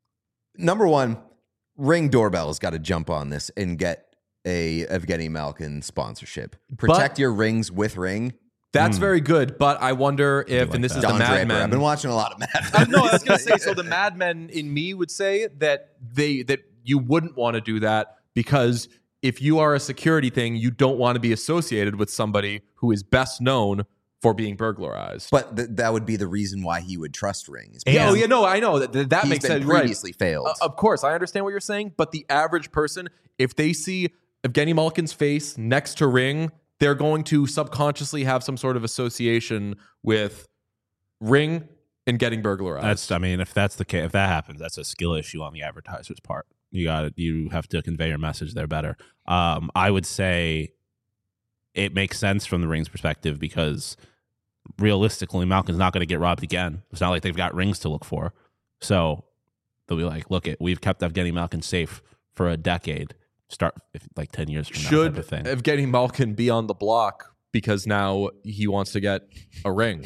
number one, Ring Doorbell has got to jump on this and get a Evgeny Malkin sponsorship. Protect your rings with Ring. That's Hmm. very good, but I wonder if, like and this that. is the Don Mad Draper. Men. I've been watching a lot of Mad Uh, Men. no, I was going to say. So the Mad Men in me would say that they that you wouldn't want to do that because if you are a security thing, you don't want to be associated with somebody who is best known for being burglarized. But th- that would be the reason why he would trust rings. And- oh yeah, no, I know that that He's makes been sense. Right. previously failed. Uh, of course, I understand what you're saying, but the average person, if they see Evgeny Malkin's face next to Ring, they're going to subconsciously have some sort of association with Ring and getting burglarized. That's, I mean, if that's the case, if that happens, that's a skill issue on the advertiser's part. You got to You have to convey your message there better. Um, I would say it makes sense from the Rings perspective because realistically, Malkin's not going to get robbed again. It's not like they've got rings to look for. So they'll be like, look, it we've kept Evgeny Malkin safe for a decade. Start if, like ten years from now. Should type of thing. Evgeny Malkin be on the block because now he wants to get a ring?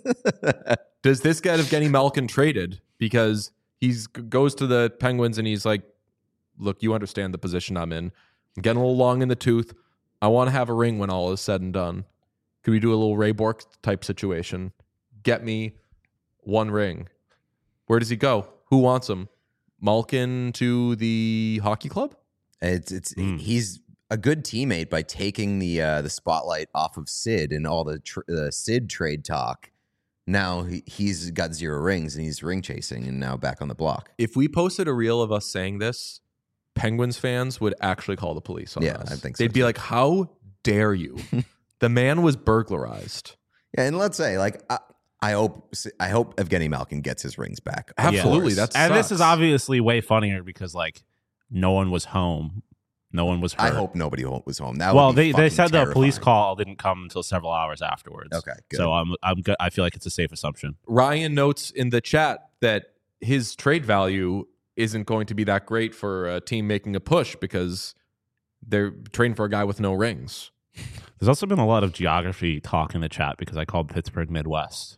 Does this get Evgeny Malkin traded because he's goes to the Penguins and he's like, look, you understand the position I'm in. I'm getting a little long in the tooth. I want to have a ring when all is said and done. Could we do a little Ray Bork type situation? Get me one ring. Where does he go? Who wants him? Malkin to the hockey club? It's it's Mm. he's a good teammate by taking the uh, the spotlight off of Sid and all the tr- the Sid trade talk. Now he, he's got zero rings and he's ring chasing and now back on the block. If we posted a reel of us saying this, Penguins fans would actually call the police on Yeah, us. I think so, They'd be too. like, how dare you? The man was burglarized. Yeah, and let's say like I, I hope I hope Evgeny Malkin gets his rings back. Of Absolutely, course. that's- and this sucks. is obviously way funnier because like no one was home. No one was hurt. I hope nobody ho- was home. That well, would be they, they fucking said the police terrifying. call didn't come until several hours afterwards. Okay, good. So I'm I'm good. I feel like it's a safe assumption. Ryan notes in the chat that his trade value isn't going to be that great for a team making a push because they're trading for a guy with no rings. There's also been a lot of geography talk in the chat because I called Pittsburgh Midwest.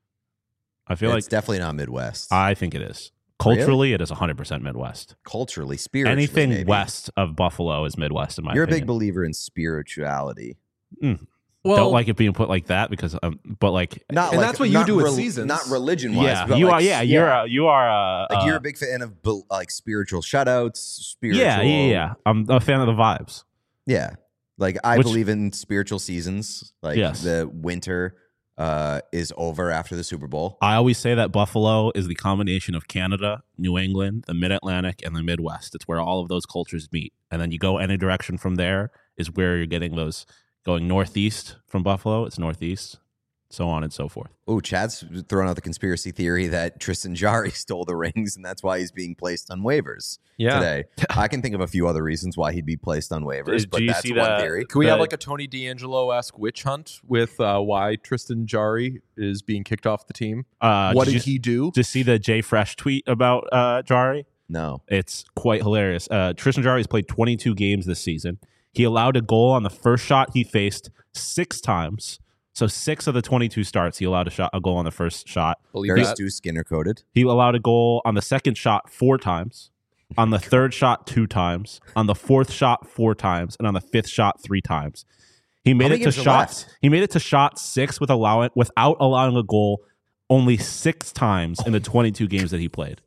I feel It's like definitely not Midwest. I think it is. Culturally, really? It is one hundred percent Midwest. Culturally, spiritually, anything maybe. west of Buffalo is Midwest in my You're opinion. a big believer in spirituality. Mm. Well, Don't like it being put like that because, um, but like, Not And like, that's what you not do with rel- seasons. Not religion-wise. yeah, but you like, are. Yeah, you're. A, you are. A, like uh, you're a big fan of bel- like spiritual shutouts. Spiritual. yeah, yeah, yeah. I'm a fan of the vibes. Yeah. Like I Which- believe in spiritual seasons. Like Yes. the winter uh, is over after the Super Bowl. I always say that Buffalo is the combination of Canada, New England, the Mid-Atlantic, and the Midwest. It's where all of those cultures meet. And then you go any direction from there is where you're getting those going northeast from Buffalo. It's northeast, so on and so forth. Oh, Chad's throwing out the conspiracy theory that Tristan Jari stole the rings, and that's why he's being placed on waivers yeah. today. I can think of a few other reasons why he'd be placed on waivers, Did but you that's see one that- theory. Can we have The- like a Tony D'Angelo-esque witch hunt with uh, why Tristan Jari is being kicked off the team? Uh, what did did you he do? just see the Jay Fresh tweet about uh, Jari? No. It's quite hilarious. Uh, Tristan Jari has played twenty-two games this season. He allowed a goal on the first shot he faced six times. So six of the twenty-two starts, he allowed a shot, a goal on the first shot. Believe Very that. Stu Skinner coded. He allowed a goal on the second shot four times, on the third shot two times, on the fourth shot four times, and on the fifth shot three times. He made many it to games are shot. left? He made it to shot six with allowing without allowing a goal only six times in the twenty-two games that he played.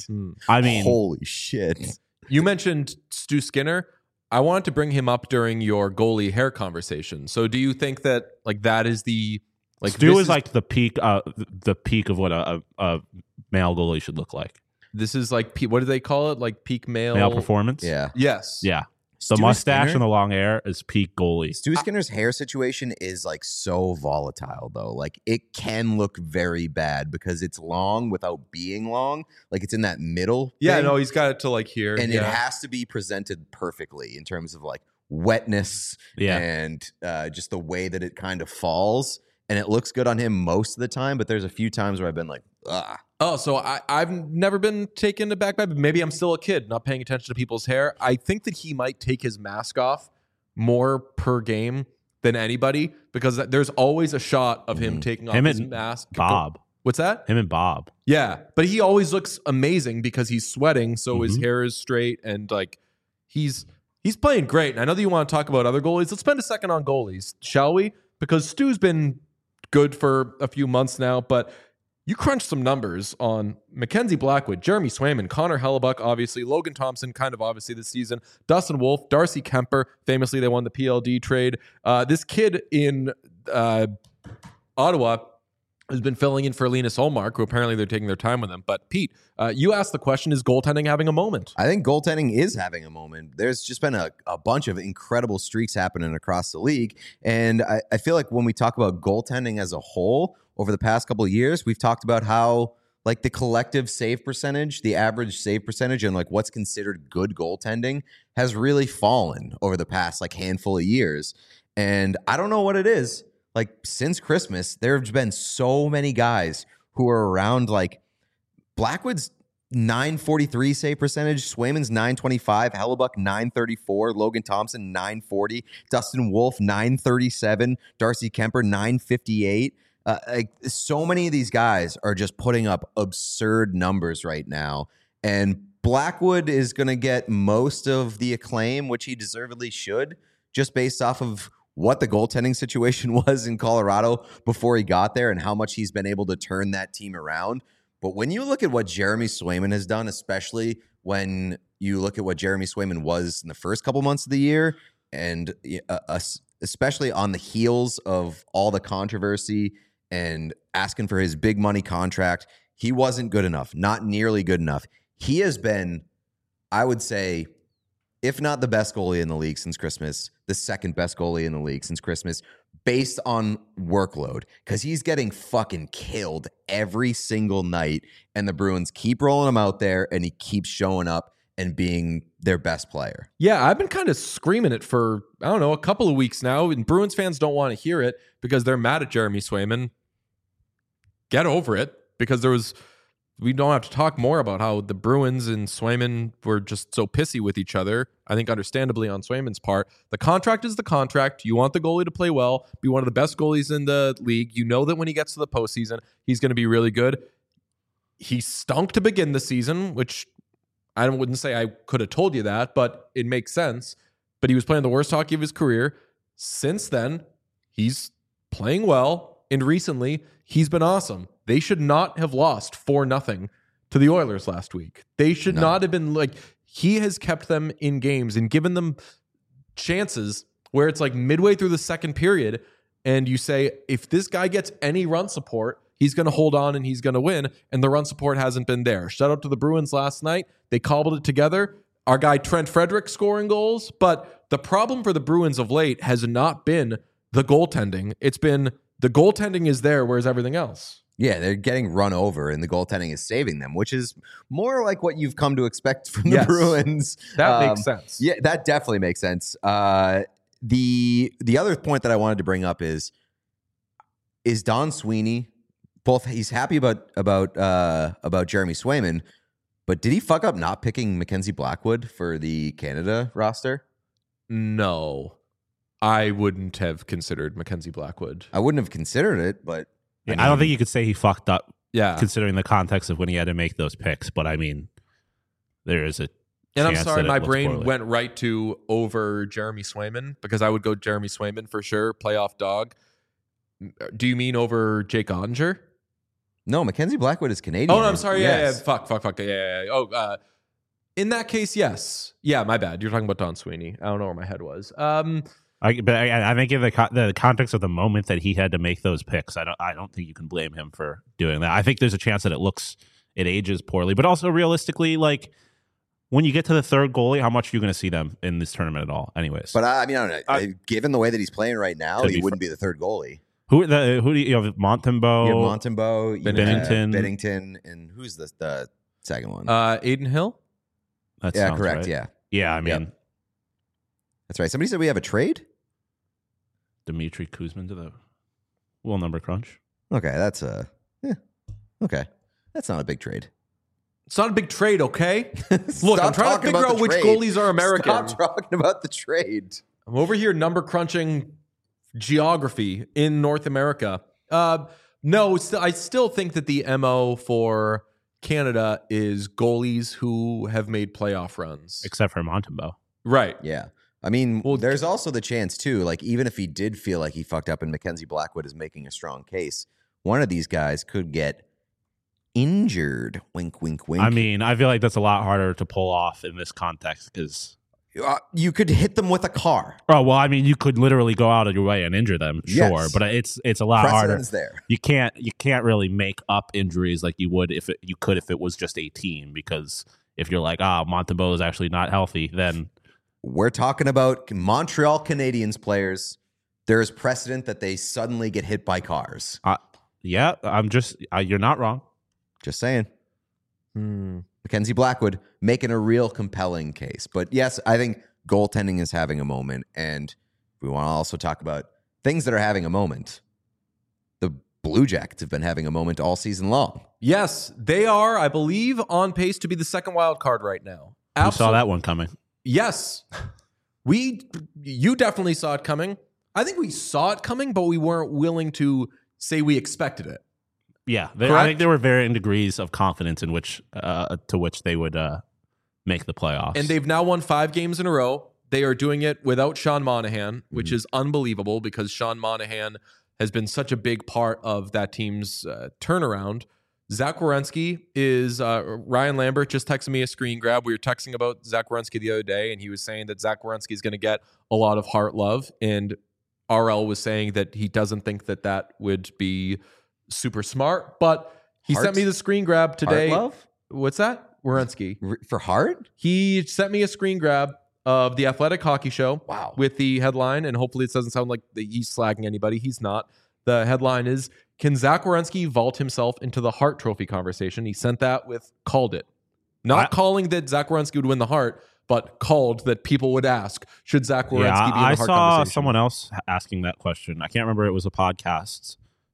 I mean, Holy shit. You mentioned Stu Skinner. I wanted to bring him up during your goalie hair conversation. So do you think that like that is the like Stu this is like the peak, uh, the peak of what a, a, a male goalie should look like. this is like pe- what do they call it? Like peak male Male performance. Yeah. Yes. Yeah. The Stu mustache Skinner? and the long hair is peak goalie. Stu Skinner's hair situation is like so volatile though. Like it can look very bad because it's long without being long. Like it's in that middle. Yeah. thing, No, he's got it to like here. and yeah. it has to be presented perfectly in terms of like wetness Yeah. and uh, just the way that it kind of falls. And it looks good on him most of the time, but there's a few times where I've been like, ah. Oh, so I, I've never been taken aback by, but maybe I'm still a kid, not paying attention to people's hair. I think that he might take his mask off more per game than anybody because there's always a shot of him Mhm. taking off Him his and mask. Bob. What's that? Him and Bob. Yeah, but he always looks amazing because he's sweating, so his Mhm. hair is straight and like he's he's playing great. And I know that you want to talk about other goalies. Let's spend a second on goalies, shall we? Because Stu's been good for a few months now, but you crunch some numbers on Mackenzie Blackwood, Jeremy Swayman, Connor Hellebuck, obviously, Logan Thompson, kind of obviously this season, Dustin Wolf, Darcy Kemper, famously they won the P L D trade. Uh, this kid in uh, Ottawa has been filling in for Linus Olmark, who apparently they're taking their time with him. But Pete, uh, you asked the question, is goaltending having a moment? I think goaltending is having a moment. There's just been a, a bunch of incredible streaks happening across the league. And I, I feel like when we talk about goaltending as a whole over the past couple of years, we've talked about how like the collective save percentage, the average save percentage, and like what's considered good goaltending has really fallen over the past like handful of years. And I don't know what it is. Like since Christmas, there have been so many guys who are around like Blackwood's nine forty-three save percentage, Swayman's nine twenty-five, Hellebuck nine thirty-four, Logan Thompson nine forty, Dustin Wolf nine thirty-seven, Darcy Kemper nine fifty-eight. Uh, like so many of these guys are just putting up absurd numbers right now, and Blackwood is going to get most of the acclaim, which he deservedly should, just based off of what the goaltending situation was in Colorado before he got there and how much he's been able to turn that team around. But when you look at what Jeremy Swayman has done, especially when you look at what Jeremy Swayman was in the first couple months of the year, and uh, us, especially on the heels of all the controversy and asking for his big money contract, he wasn't good enough, not nearly good enough. He has been, I would say, if not the best goalie in the league since Christmas, the second best goalie in the league since Christmas, based on workload, because he's getting fucking killed every single night, and the Bruins keep rolling him out there, and he keeps showing up and being their best player. Yeah, I've been kind of screaming it for, I don't know, a couple of weeks now, and Bruins fans don't want to hear it because they're mad at Jeremy Swayman. Get over it, because there was we don't have to talk more about how the Bruins and Swayman were just so pissy with each other. I think understandably on Swayman's part. The contract is the contract. You want the goalie to play well, be one of the best goalies in the league. You know that when he gets to the postseason, he's going to be really good. He stunk to begin the season, which I wouldn't say I could have told you that, but it makes sense. But he was playing the worst hockey of his career. Since then, he's playing well, and recently he's been awesome. They should not have lost four nothing to the Oilers last week. They should no. not have been like, he has kept them in games and given them chances where it's like midway through the second period, and you say, if this guy gets any run support, he's going to hold on and he's going to win, and the run support hasn't been there. Shout out to the Bruins last night. They cobbled it together. Our guy Trent Frederick scoring goals, but the problem for the Bruins of late has not been the goaltending. It's been the goaltending is there, whereas everything else. Yeah, they're getting run over, and the goaltending is saving them, which is more like what you've come to expect from the yes, Bruins. That um, makes sense. Yeah, that definitely makes sense. Uh, the the other point that I wanted to bring up is is Don Sweeney. Both he's happy about about uh, about Jeremy Swayman, but did he fuck up not picking Mackenzie Blackwood for the Canada roster? No, I wouldn't have considered Mackenzie Blackwood. I wouldn't have considered it, but yeah, I, mean, I don't think you could say he fucked up. Yeah, considering the context of when he had to make those picks, but I mean, there is a. And I'm sorry, my brain poorly. went right to over Jeremy Swayman because I would go Jeremy Swayman for sure, playoff dog. Do you mean over Jake Ottinger? No, Mackenzie Blackwood is Canadian. Oh, no, I'm sorry. Yeah, yes. yeah, fuck, fuck, fuck. Yeah, yeah, yeah. Oh, uh, in that case, yes. Yeah, my bad. You're talking about Don Sweeney. I don't know where my head was. Um, I, but I, I think in the co- the context of the moment that he had to make those picks, I don't I don't think you can blame him for doing that. I think there's a chance that it looks it ages poorly, but also realistically, like when you get to the third goalie, how much are you going to see them in this tournament at all? Anyways, But I, I mean, I don't know. I, Given the way that he's playing right now, he wouldn't fr- be the third goalie. Who the who do you, you have? Montembeau, You have Montembeau, you Bennington, have Bennington, and who's the the second one? uh, Aiden Hill? That yeah, sounds correct. right. Yeah, yeah. I mean, Yep. That's right. Somebody said we have a trade. Dmitry Kuzmin to the will number crunch. Okay, that's a yeah. Okay, that's not a big trade. It's not a big trade, okay? Look, Stop I'm trying to talking figure about out the which trade. goalies are American. Stop talking about the trade. I'm over here number crunching geography in North America. Uh, no, st- I still think that the M O for Canada is goalies who have made playoff runs. Except for Montembeau. Right. Yeah. I mean, Well, there's also the chance, too, like, even if he did feel like he fucked up and Mackenzie Blackwood is making a strong case, one of these guys could get injured. Wink, wink, wink. I mean, I feel like that's a lot harder to pull off in this context because. Uh, you could hit them with a car. Oh well, I mean, you could literally go out of your way and injure them, sure, Yes. but it's it's a lot Precedent's harder. there. You can't you can't really make up injuries like you would if it, you could if it was just a team, because if you're like, ah, Montembeau is actually not healthy, then We're talking about Montreal Canadiens players. There is precedent that they suddenly get hit by cars. uh, yeah, I'm just uh, you're not wrong. Just saying. Hmm. Mackenzie Blackwood making a real compelling case. But yes, I think goaltending is having a moment. And we want to also talk about things that are having a moment. The Blue Jackets have been having a moment all season long. Yes, they are, I believe, on pace to be the second wild card right now. Who saw that one coming? Yes. We, you definitely saw it coming. I think we saw it coming, but we weren't willing to say we expected it. Yeah, they, I Correct? think there were varying degrees of confidence in which uh, to which they would uh, make the playoffs. And they've now won five games in a row. They are doing it without Sean Monahan, which Mm-hmm. is unbelievable because Sean Monahan has been such a big part of that team's uh, turnaround. Zach Werenski is, uh, Ryan Lambert just texted me a screen grab. We were texting about Zach Werenski the other day, and he was saying that Zach Werenski is going to get a lot of heart love. And R L was saying that he doesn't think that that would be super smart, but he Heart? sent me the screen grab today. Heart love? What's that? Werenski. R- For Hart? He sent me a screen grab of the Athletic Hockey Show. Wow. With the headline, and hopefully it doesn't sound like that he's slagging anybody. He's not. The headline is, can Zach Werenski vault himself into the Hart Trophy conversation? He sent that with called it. Not I- calling that Zach Werenski would win the Hart, but called that people would ask, should Zach Werenski yeah, be in the I Hart saw conversation? someone else asking that question. I can't remember. It was a podcast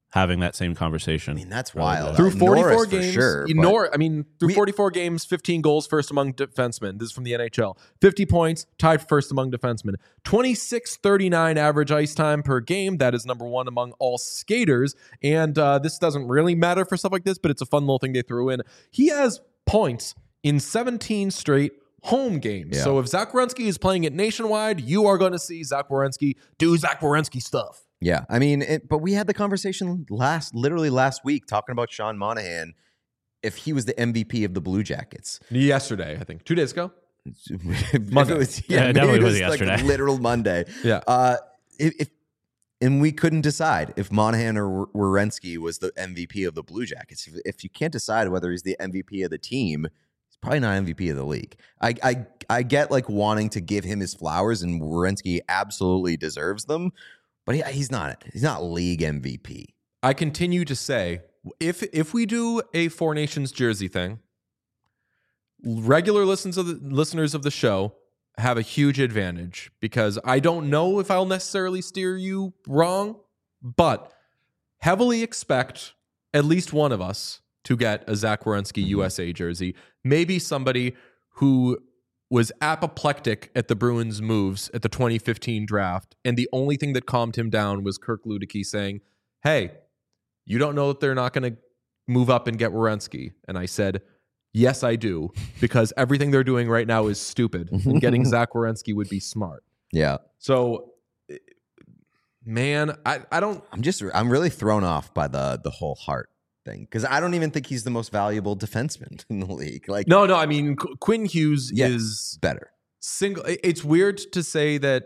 having that same conversation. I mean, that's Really wild. good. Through Uh, forty-four Norris for games, sure, you- but- Nor, I mean, through We- forty-four games, fifteen goals, first among defensemen. This is from the N H L. fifty points, tied first among defensemen. twenty-six thirty-nine average ice time per game. That is number one among all skaters. And uh, this doesn't really matter for stuff like this, but it's a fun little thing they threw in. He has points in seventeen straight home games. Yeah. So if Zach Werenski is playing it nationwide, you are going to see Zach Werenski do Zach Werenski stuff. Yeah, I mean, it, but we had the conversation last, literally last week, talking about Sean Monahan. If he was the M V P of the Blue Jackets, Yesterday, I think. Two days ago? Monday, it was, Yeah, it maybe definitely it was like yesterday. literal Monday. Yeah. Uh, if, if and we couldn't decide if Monahan or Werenski was the M V P of the Blue Jackets. If, if you can't decide whether he's the M V P of the team, he's probably not M V P of the league. I I I get like wanting to give him his flowers, and Werenski absolutely deserves them. But he, he's not. He's not league M V P. I continue to say, if if we do a Four Nations jersey thing, regular listeners of the, listeners of the show have a huge advantage because I don't know if I'll necessarily steer you wrong, but heavily expect at least one of us to get a Zach Werenski U S A jersey. Maybe somebody who was apoplectic at the Bruins' moves at the twenty fifteen draft, and the only thing that calmed him down was Kirk Luedecke saying, hey, you don't know that they're not going to move up and get Werenski. And I said, yes, I do, because everything they're doing right now is stupid, and getting Zach Werenski would be smart. Yeah. So, man, I, I don't... I'm just I'm really thrown off by the the whole Hart thing because I don't even think he's the most valuable defenseman in the league. Like, No, no, I mean, Qu- Quinn Hughes Yeah. is better. single. It's weird to say that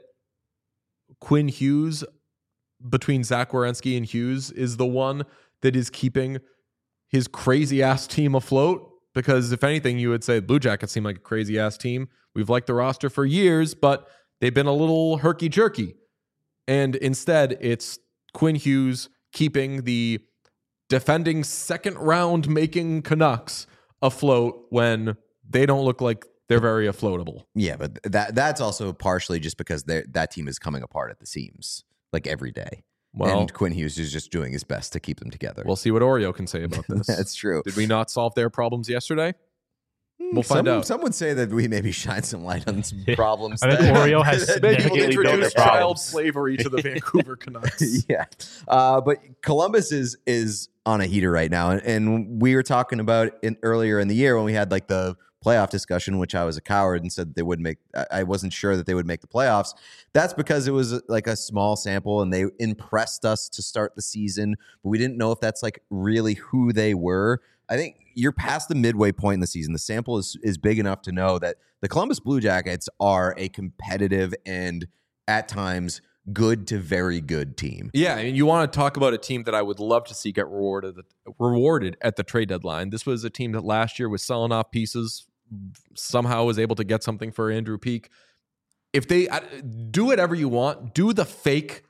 Quinn Hughes, between Zach Werenski and Hughes, is the one that is keeping his crazy ass team afloat. Because if anything, you would say Blue Jackets seem like a crazy ass team. We've liked the roster for years, but they've been a little herky jerky. And instead, it's Quinn Hughes keeping the defending second round making Canucks afloat when they don't look like they're very afloatable. Yeah, but that that's also partially just because that team is coming apart at the seams like every day. Well, and Quinn Hughes is just doing his best to keep them together. we'll see what Oreo can say about this. That's true. Did we not solve their problems yesterday? We'll some, find out. Some would say that we maybe shine some light on some problems. I think that- Oreo has that Maybe people we'll significantly didn't built introduce their child problems. slavery to the Vancouver Canucks. yeah. Uh, but Columbus is is on a heater right now. And, and we were talking about in earlier in the year when we had like the playoff discussion, which I was a coward and said they wouldn't make, I wasn't sure that they would make the playoffs. That's because it was like a small sample and they impressed us to start the season, but we didn't know if that's like really who they were. I think you're past the midway point in the season. The sample is, is big enough to know that the Columbus Blue Jackets are a competitive and at times good to very good team. Yeah, I mean, you want to talk about a team that I would love to see get rewarded rewarded at the trade deadline. This was a team that last year was selling off pieces, somehow was able to get something for Andrew Peeke. If they do whatever you want, do the fake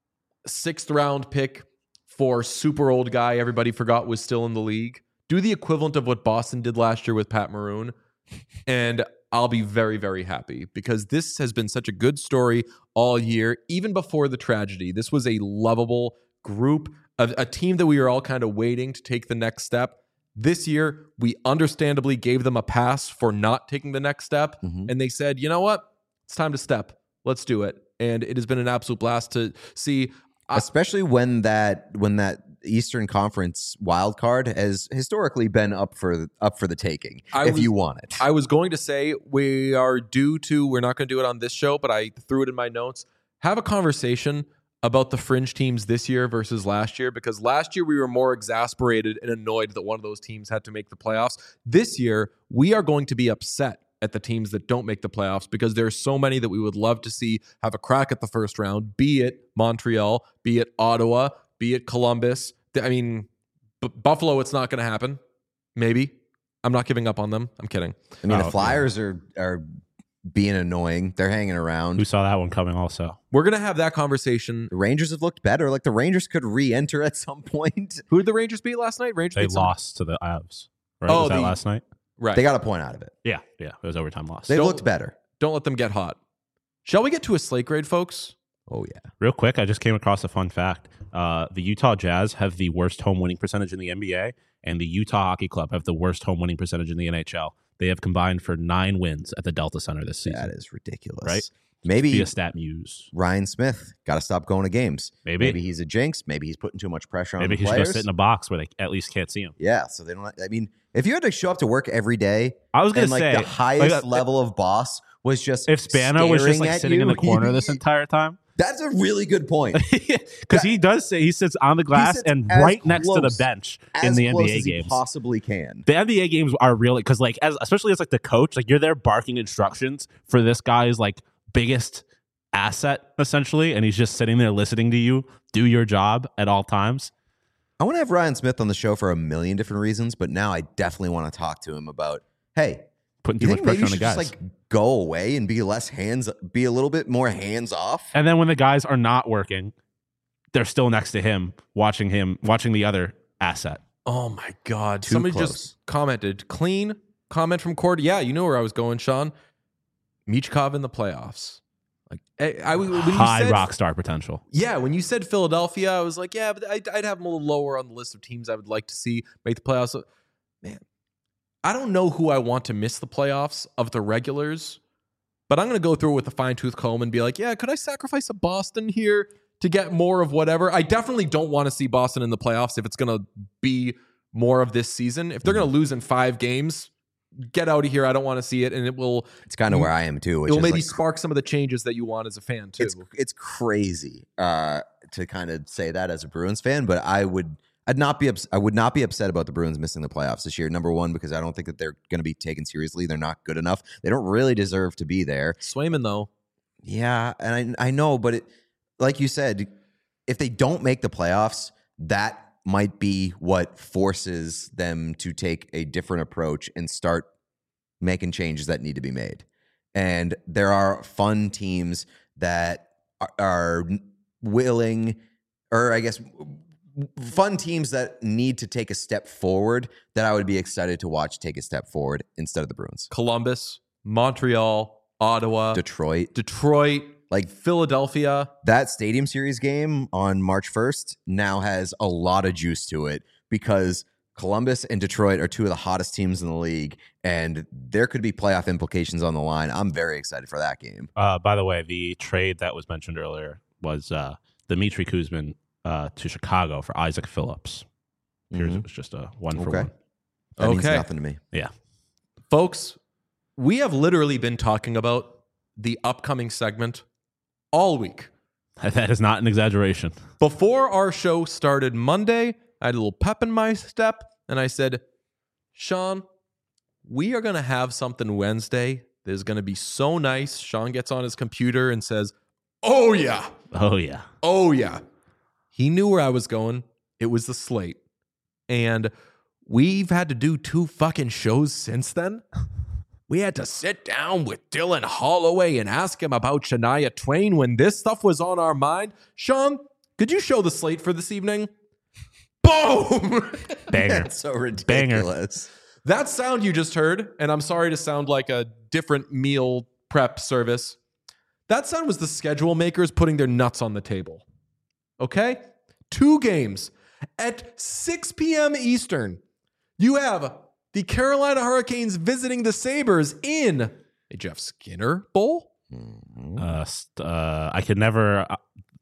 sixth round pick for super old guy everybody forgot was still in the league. Do the equivalent of what Boston did last year with Pat Maroon, and I'll be very, very happy because this has been such a good story all year, even before the tragedy. This was a lovable group, a, a team that we were all kind of waiting to take the next step. This year, we understandably gave them a pass for not taking the next step, Mhm. and they said, you know what? It's time to step. Let's do it. And it has been an absolute blast to see. I- Especially when that when that Eastern Conference wild card has historically been up for up for the taking I if was- you want it. I was going to say we are due to, we're not going to do it on this show, but I threw it in my notes. Have a conversation about the fringe teams this year versus last year, because last year we were more exasperated and annoyed that one of those teams had to make the playoffs. This year, we are going to be upset at the teams that don't make the playoffs because there's so many that we would love to see have a crack at the first round, be it Montreal, be it Ottawa, be it Columbus. I mean, B- Buffalo, it's not going to happen. Maybe. I'm not giving up on them. I'm kidding. I mean, Oh, the Flyers are are being annoying. They're hanging around. Who saw that one coming also? We're going to have that conversation. The Rangers have looked better. Like the Rangers could re-enter at some point. Who did the Rangers beat last night? Rangers They beat someone? lost to the Avs. Right? Oh, Was that the- last night? Right. They got a point out of it. Yeah, yeah. It was overtime loss. They Don't- looked better. Don't let them get hot. Shall we get to a slate grade, folks? Oh, yeah. Real quick, I just came across a fun fact. Uh, the Utah Jazz have the worst home winning percentage in the N B A, and the Utah Hockey Club have the worst home winning percentage in the N H L. They have combined for nine wins at the Delta Center this season. That is ridiculous. Right? Maybe Be a stat muse. Ryan Smith got to stop going to games. Maybe. Maybe he's a jinx. Maybe he's putting too much pressure on Maybe the he should players. go sit in a box where they at least can't see him. Yeah, so they don't. I mean, if you had to show up to work every day, I was gonna and like say the highest like, uh, level of boss was just if Spano was just staring like at sitting you, in the corner this entire time. That's a really good point. Because he does say he sits on the glass sits and as right next to the close- bench as in the N close B A as he games. possibly can. The N B A games are really because like as especially as like the coach, like you're there barking instructions for this guy's like biggest asset essentially, and he's just sitting there listening to you do your job at all times. I want to have Ryan Smith on the show for a million different reasons, but now I definitely want to talk to him about, hey, Putting you too think much maybe pressure you on should the just guys. like go away and be less hands, be a little bit more hands off? And then when the guys are not working, they're still next to him, watching him, watching the other asset. Oh my God. Too Somebody close. just commented, clean comment from Cord. Yeah, you know where I was going, Sean. Michkov in the playoffs. Like I, I when you High said, rock star potential. Yeah, when you said Philadelphia, I was like, yeah, but I'd, I'd have them a little lower on the list of teams I would like to see make the playoffs. Man, I don't know who I want to miss the playoffs of the regulars, but I'm going to go through it with a fine tooth comb and be like, yeah, could I sacrifice a Boston here to get more of whatever? I definitely don't want to see Boston in the playoffs if it's going to be more of this season. If they're going to lose in five games, get out of here. I don't want to see it, and it will. It's kind of where I am too. Which It will is maybe like, spark some of the changes that you want as a fan too. it's it's crazy uh, to kind of say that as a Bruins fan, but I would I'd not be ups- I would not be upset about the Bruins missing the playoffs this year. Number one, because I don't think that they're going to be taken seriously. They're not good enough. They don't really deserve to be there. Swayman though, Yeah, and I I know, but it, like you said, if they don't make the playoffs, that might be what forces them to take a different approach and start making changes that need to be made. And there are fun teams that are, are willing, or I guess fun teams that need to take a step forward that I would be excited to watch take a step forward instead of the Bruins. Columbus, Montreal, Ottawa, Detroit, Detroit, like Philadelphia. that Stadium Series game on March first now has a lot of juice to it because Columbus and Detroit are two of the hottest teams in the league, and there could be playoff implications on the line. I'm very excited for that game. Uh, by the way, the trade that was mentioned earlier was uh, Dmitry Kuzmin uh, to Chicago for Isaac Phillips. Appears Mhm. it was just a one for Okay. one. That means Okay. nothing to me. Yeah. Folks, we have literally been talking about the upcoming segment all week. That is not an exaggeration. Before our show started Monday, I had a little pep in my step, and I said, Sean, we are going to have something Wednesday that is going to be so nice. Sean gets on his computer and says, oh, yeah. Oh, yeah. Oh, yeah. He knew where I was going. It was the slate. And we've had to do two fucking shows since then. We had to sit down with Dylan Holloway and ask him about Shania Twain when this stuff was on our mind. Sean, could you show the slate for this evening? Boom! Banger. That's so ridiculous. That sound you just heard, and I'm sorry to sound like a different meal prep service. That sound was the schedule makers putting their nuts on the table. Okay? Two games at six p.m. Eastern. You have the Carolina Hurricanes visiting the Sabres in a Jeff Skinner Bowl. Uh, st- uh, I could never. Uh,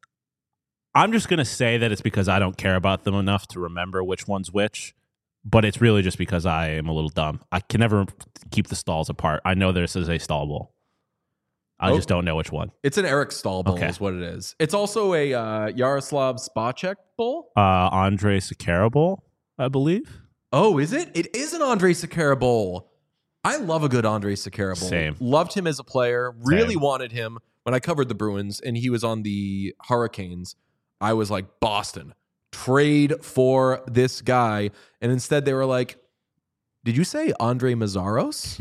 I'm just going to say that it's because I don't care about them enough to remember which one's which, but it's really just because I am a little dumb. I can never keep the stalls apart. I know this is a stall bowl. I Oh. just don't know which one. It's an Eric Stahl Bowl Okay. is what it is. It's also a uh, Yaroslav Spacek Bowl. Uh, Andre Sakara Bowl, I believe. Oh, is it? It is an Andre Sakara Bowl. I love a good Andre Sakara Bowl. Same. Loved him as a player. Really Same. wanted him when I covered the Bruins and he was on the Hurricanes. I was like, Boston, trade for this guy. And instead they were like, did you say Andre Mazzaros?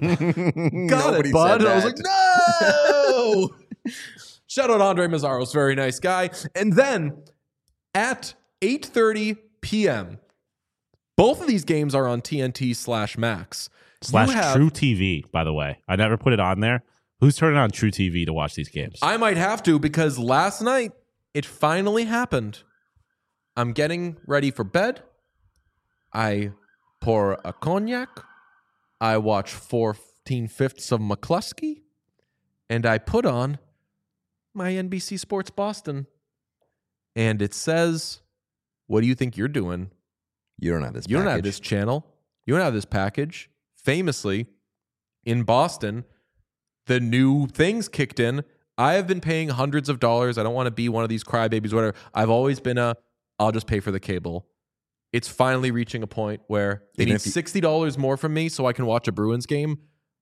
Got Nobody it, bud. said And I was that. like, no. Shout out Andre Mazzaros, very nice guy. And then at eight thirty p.m., both of these games are on T N T slash Max. Slash You have- True T V, by the way. I never put it on there, Who's turning on True T V to watch these games? I might have to because last night it finally happened. I'm getting ready for bed. I pour a cognac. I watch fourteen fifths of McCluskey. And I put on my N B C Sports Boston. And it says, what do you think you're doing? You don't have this You package. don't have this channel. You don't have this package. Famously, in Boston, the new things kicked in. I have been paying hundreds of dollars. I don't want to be one of these crybabies, whatever. I've always been a, I'll just pay for the cable. It's finally reaching a point where they Even need if you- sixty dollars more from me so I can watch a Bruins game.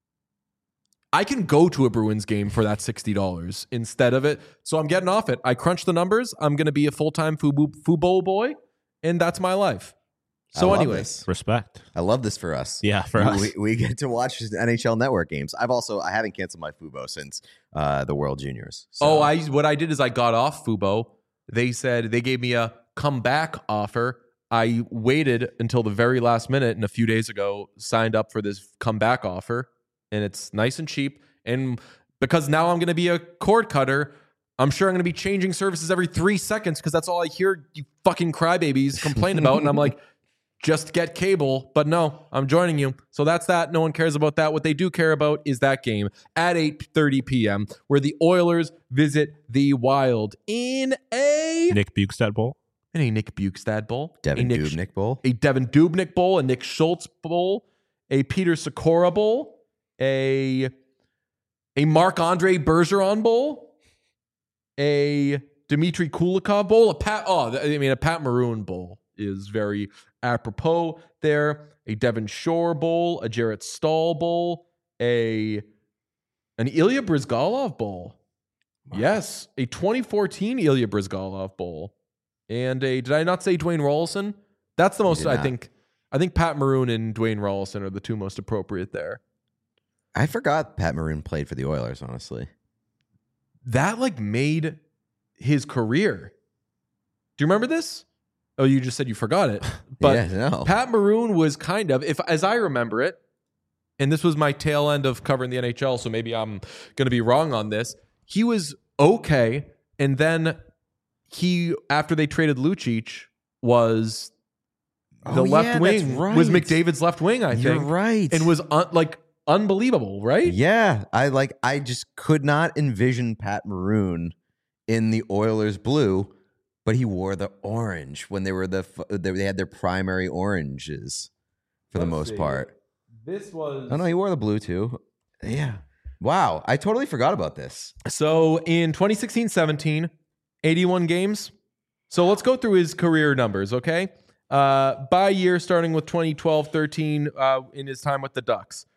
I can go to a Bruins game for that sixty dollars instead of it. So I'm getting off it. I crunch the numbers. I'm going to be a full-time Fubo, Fubo boy, and that's my life. So I love anyways, this. Respect. I love this for us. Yeah, for we, us. we, we get to watch N H L Network games. I've also I haven't canceled my Fubo since uh, the World Juniors. So. Oh, I what I did is I got off Fubo. They said they gave me a comeback offer. I waited until the very last minute and a few days ago signed up for this comeback offer, and it's nice and cheap. And because now I'm going to be a cord cutter, I'm sure I'm going to be changing services every three seconds because that's all I hear you fucking crybabies complain about. And I'm like, just get cable. But no, I'm joining you. So that's that. No one cares about that. What they do care about is that game at eight thirty p.m. where the Oilers visit the Wild in a Nick Bukestad Bowl. in a Nick Bukestad Bowl, Devin a Nick, Dubnyk Bowl. a Devin Dubnyk Bowl, a Nick Schultz Bowl, a Peter Sikora Bowl, a a Marc-Andre Bergeron Bowl, a Dmitry Kulikov Bowl, a Pat. Oh, I mean, a Pat Maroon Bowl is very apropos there. A Devin Shore Bowl, a Jarrett Stahl Bowl, a an Ilya Brizgalov Bowl. Yes, a twenty fourteen Ilya Brizgalov Bowl. And a, did I not say Dwayne Rollison? That's the most, did I not. think, I think Pat Maroon and Dwayne Rollison are the two most appropriate there. I forgot Pat Maroon played for the Oilers, honestly. That like made his career. Do you remember this? Oh, you just said you forgot it. But yeah, no. Pat Maroon was kind of, if as I remember it, and this was my tail end of covering the N H L, so maybe I'm going to be wrong on this. He was okay, and then he, after they traded Lucic, was the Oh, left yeah, wing, that's right. was McDavid's left wing, I You're think, right. and was un, like unbelievable, right? Yeah, I like. I just could not envision Pat Maroon in the Oilers blue, but he wore the orange when they were the f- they they had their primary oranges for the Let's most see. part. This was Oh no, he wore the blue too. Yeah. Wow, I totally forgot about this. So in twenty sixteen seventeen, eighty-one games. So let's go through his career numbers, okay? Uh, by year, starting with twenty twelve thirteen uh, in his time with the Ducks.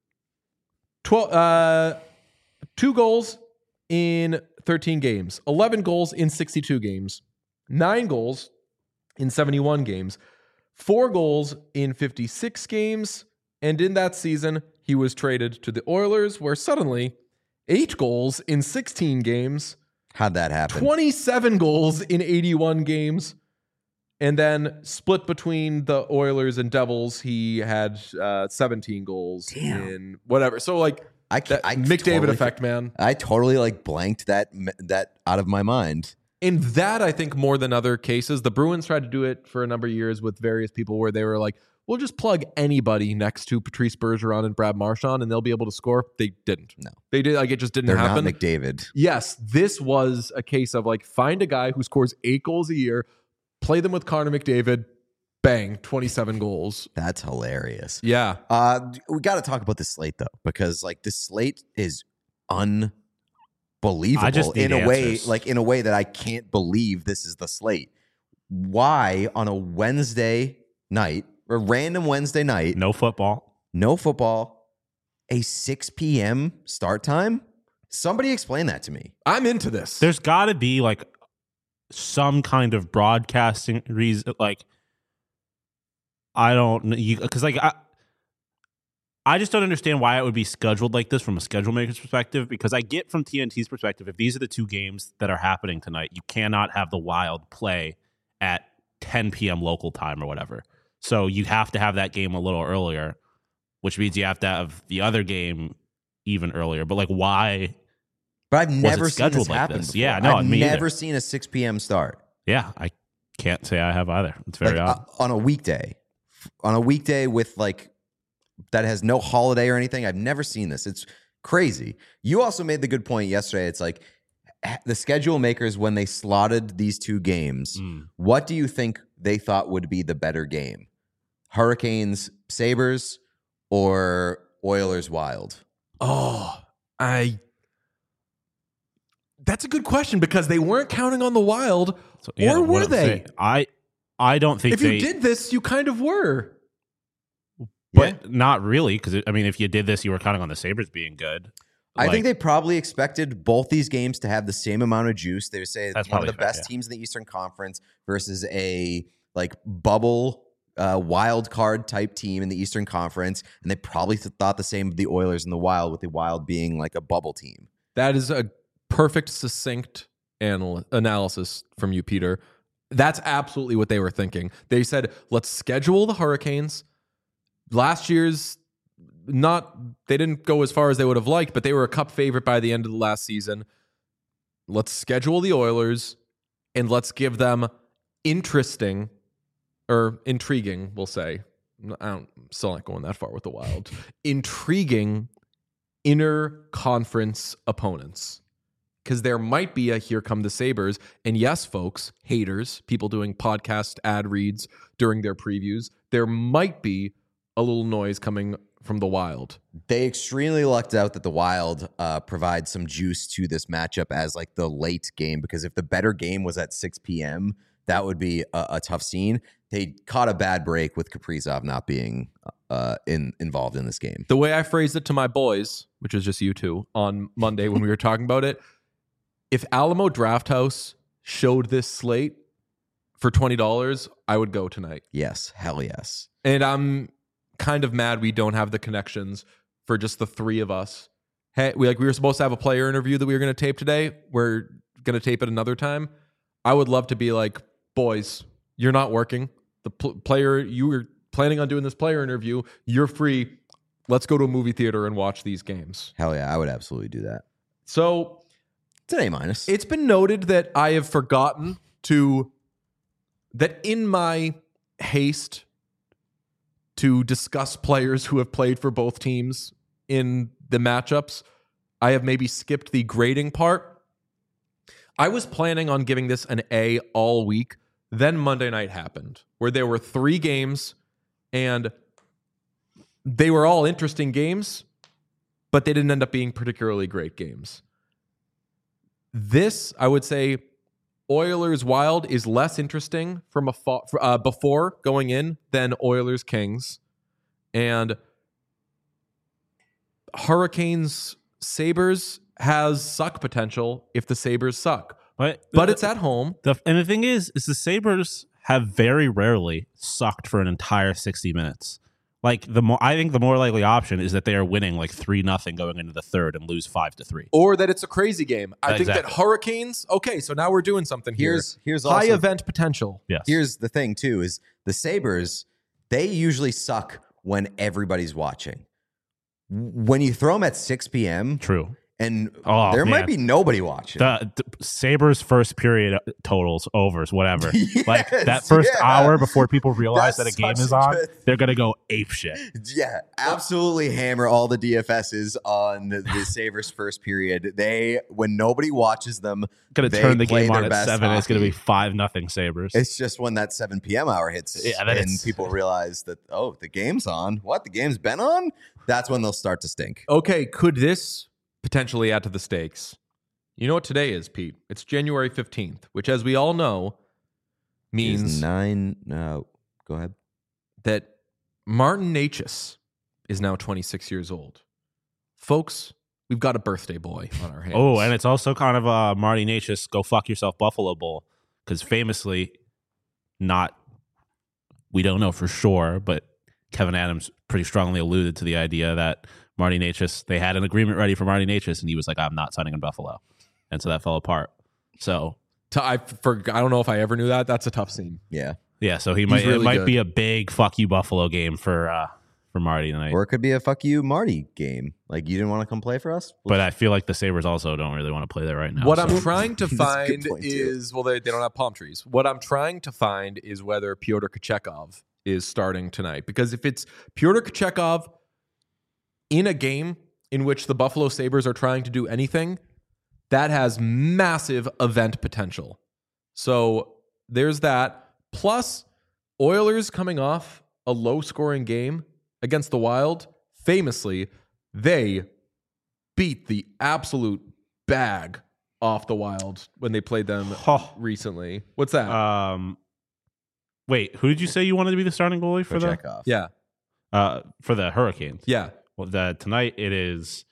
twelve, uh, two goals in thirteen games, eleven goals in sixty-two games, nine goals in seventy-one games, four goals in fifty-six games, and in that season, he was traded to the Oilers, where suddenly eight goals in sixteen games, How'd that happen? twenty-seven goals in eighty-one games, and then split between the Oilers and Devils. He had uh, seventeen goals Damn. in whatever. So like I can't. that I McDavid totally, effect, man. I totally like blanked that that out of my mind. In that, I think more than other cases, the Bruins tried to do it for a number of years with various people where they were like, we'll just plug anybody next to Patrice Bergeron and Brad Marchand and they'll be able to score. They didn't. No. They did. Like, it just didn't They're happen. not McDavid. Yes, this was a case of like, find a guy who scores eight goals a year, play them with Connor McDavid, bang, twenty-seven goals. That's hilarious. Yeah. Uh, we got to talk about the slate though, because like the slate is unbelievable I just need in a way, answers. like in a way that I can't believe this is the slate. Why on a Wednesday night, a random Wednesday night, No football. no football, a six p.m. start time? Somebody explain that to me. I'm into this. There's got to be like some kind of broadcasting reason. Like, I don't know. Because, like, I, I just don't understand why it would be scheduled like this from a schedule maker's perspective. Because I get from T N T's perspective, if these are the two games that are happening tonight, you cannot have the Wild play at ten p.m. local time or whatever. So you have to have that game a little earlier, which means you have to have the other game even earlier. But like, why? But I've Was never it seen this scheduled like happen this? before. Yeah, no, I've me never either. seen a six p.m. start. Yeah, I can't say I have either. It's very Like, odd. uh, on a weekday. On a weekday with like that has no holiday or anything. I've never seen this. It's crazy. You also made the good point yesterday. It's like the schedule makers, when they slotted these two games, Mm. what do you think they thought would be the better game? Hurricanes, Sabres, or Oilers, Wild? Oh, I. That's a good question because they weren't counting on the Wild, So, yeah, or what were I'm they? saying, I I don't think If they you did this, you kind of were. but Yeah. not really, because I mean, if you did this, you were counting on the Sabres being good. I Like, think they probably expected both these games to have the same amount of juice. They say That's one of probably the fair, best yeah. teams in the Eastern Conference versus a like bubble uh, wild card type team in the Eastern Conference, and they probably th- thought the same of the Oilers and the Wild, with the Wild being like a bubble team. That is a perfect, succinct anal- analysis from you, Peter. That's absolutely what they were thinking. They said, let's schedule the Hurricanes. Last year's not, they didn't go as far as they would have liked, but they were a cup favorite by the end of the last season. Let's schedule the Oilers and let's give them interesting or intriguing, we'll say. I don't, still not going that far with the Wild. Intriguing inner conference opponents. Because there might be a here come the Sabres. And yes, folks, haters, people doing podcast ad reads during their previews, there might be a little noise coming from the Wild. They extremely lucked out that the Wild uh, provides some juice to this matchup as like the late game, because if the better game was at six p.m., that would be a, a tough scene. They caught a bad break with Kaprizov not being uh, in involved in this game. The way I phrased it to my boys, which was just you two, on Monday when we were talking about it, if Alamo Drafthouse showed this slate for twenty dollars, I would go tonight. Yes, hell yes. And I'm kind of mad we don't have the connections for just the three of us. Hey, we like we were supposed to have a player interview that we were going to tape today. We're going to tape it another time. I would love to be like, boys, you're not working. The pl- player you were planning on doing this player interview, you're free. Let's go to a movie theater and watch these games. Hell yeah, I would absolutely do that. So It's an A minus. it's been noted that I have forgotten to, that in my haste to discuss players who have played for both teams in the matchups, I have maybe skipped the grading part. I was planning on giving this an A all week. Then Monday night happened, where there were three games, and they were all interesting games, but they didn't end up being particularly great games. This, I would say, Oilers Wild is less interesting from a fa- uh, before going in than Oilers Kings, and Hurricanes Sabres has suck potential if the Sabres suck, But, but it's at home. the, and the thing is, is the Sabres have very rarely sucked for an entire sixty minutes. Like the more, I think the more likely option is that they are winning like three nothing going into the third and lose five to three. Or that it's a crazy game. I think that Exactly. Hurricanes, okay, so now we're doing something here. Here's here's High also, event potential. Yes. here's the thing too, is the Sabres, they usually suck when everybody's watching. When you throw them at six p.m. True. and Oh, there might man. be nobody watching. The, the Sabres first period totals, overs, whatever. like Yes, that first yeah. hour before people realize That's that a game such is a on, good- they're going to go ape shit. Yeah, absolutely hammer all the D F S's on the Sabres first period. They, when nobody watches them, Going to they turn the play game on their at best seven. It's going to be hockey. five nothing Sabres. It's just when that seven p.m. hour hits Yeah, then and it's- people realize that, oh, the game's on. What? The game's been on? That's when they'll start to stink. Okay, could this potentially add to the stakes? You know what today is, Pete? It's January fifteenth, which, as we all know, means Is nine. No, go ahead. that Martin Necas is now twenty-six years old. Folks, we've got a birthday boy on our hands. Oh, and it's also kind of a Marty Necas go fuck yourself Buffalo Bowl, because famously, not, we don't know for sure, but Kevin Adams pretty strongly alluded to the idea that Marty Necas, they had an agreement ready for Marty Necas, and he was like, I'm not signing in Buffalo. And so that fell apart. So, To- I, for, I don't know if I ever knew that. That's a tough scene. Yeah. yeah, so he might really it might good. be a big fuck you Buffalo game for uh, for Marty tonight. Or it could be a fuck you, Marty game. Like, you didn't want to come play for us? But I feel like the Sabres also don't really want to play there right now. What so. I'm trying to That's a good find point, too. is, well, they, they don't have palm trees. What I'm trying to find is whether Pyotr Kochetkov is starting tonight. Because if it's Pyotr Kochetkov in a game in which the Buffalo Sabres are trying to do anything, that has massive event potential. So there's that. Plus, Oilers coming off a low-scoring game against the Wild, famously, they beat the absolute bag off the Wild when they played them Oh. recently. What's that? Um, wait, who did you say you wanted to be the starting goalie for the Kochetkov. yeah, uh for the Hurricanes? yeah. Well, the, tonight it is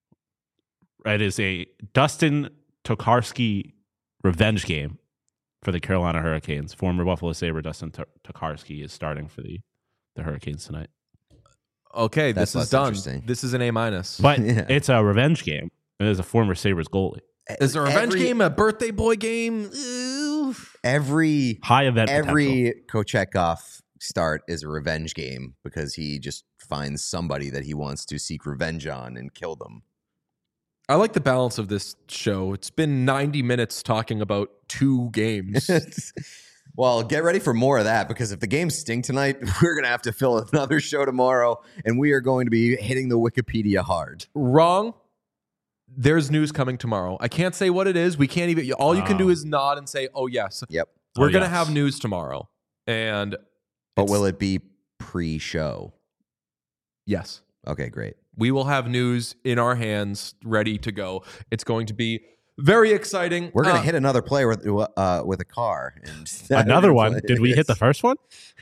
it is a Dustin Tokarski revenge game for the Carolina Hurricanes. Former Buffalo Sabre Dustin T- Tokarski is starting for the the Hurricanes tonight. Okay, That's this is less done. interesting. This is an A minus. But Yeah. it's a revenge game. It is a former Sabres goalie. Is a revenge every, game a birthday boy game? Ew. Every High event potential. every Kochetkov start is a revenge game because he just finds somebody that he wants to seek revenge on and kill them. I like the balance of this show. It's been ninety minutes talking about two games. Well, get ready for more of that because if the games stink tonight, we're going to have to fill another show tomorrow and we are going to be hitting the Wikipedia hard. Wrong. There's news coming tomorrow. I can't say what it is. We can't even. All you can do Oh. is nod and say, "Oh yes, Yep. we're Oh, gonna yes. have news tomorrow." And But it's- will it be pre-show? yes, Okay, great. we will have news in our hands, ready to go. It's going to be very exciting. We're going to Uh, hit another player with uh, with a car and Another one. Did we hit the first one?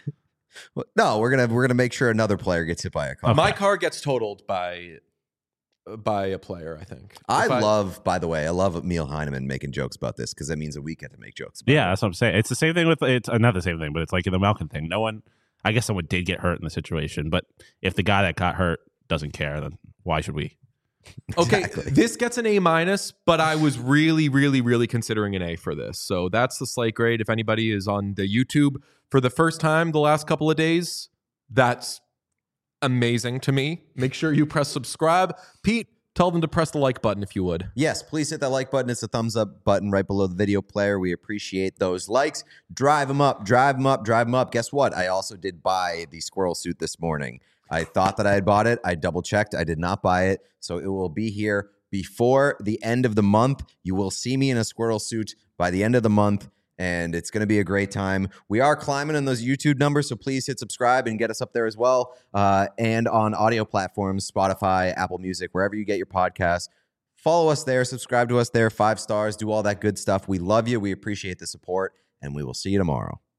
No, we're gonna we're gonna make sure another player gets hit by a car. My car gets totaled by by a player. I think. I, If love, by the way, I love Emil Heineman making jokes about this because that means that we get to make jokes. About Yeah, it. that's what I'm saying. It's the same thing with it's uh, not the same thing, but it's like in the Malkin thing. No one, I guess, someone did get hurt in the situation, but if the guy that got hurt doesn't care, then why should we? Okay, Exactly. this gets an A minus, but I was really, really, really considering an A for this. So that's the slate grade. If anybody is on the YouTube for the first time the last couple of days, that's amazing to me. Make sure you press subscribe. Pete, tell them to press the like button if you would. Yes, please hit that like button. It's a thumbs up button right below the video player. We appreciate those likes. Drive them up, drive them up, drive them up. Guess what? I also did buy the squirrel suit this morning. I thought that I had bought it. I double checked. I did not buy it. So it will be here before the end of the month. You will see me in a squirrel suit by the end of the month, and it's going to be a great time. We are climbing in those YouTube numbers, so please hit subscribe and get us up there as well. Uh, and on audio platforms, Spotify, Apple Music, wherever you get your podcasts. Follow us there, subscribe to us there, five stars, do all that good stuff. We love you. We appreciate the support, and we will see you tomorrow.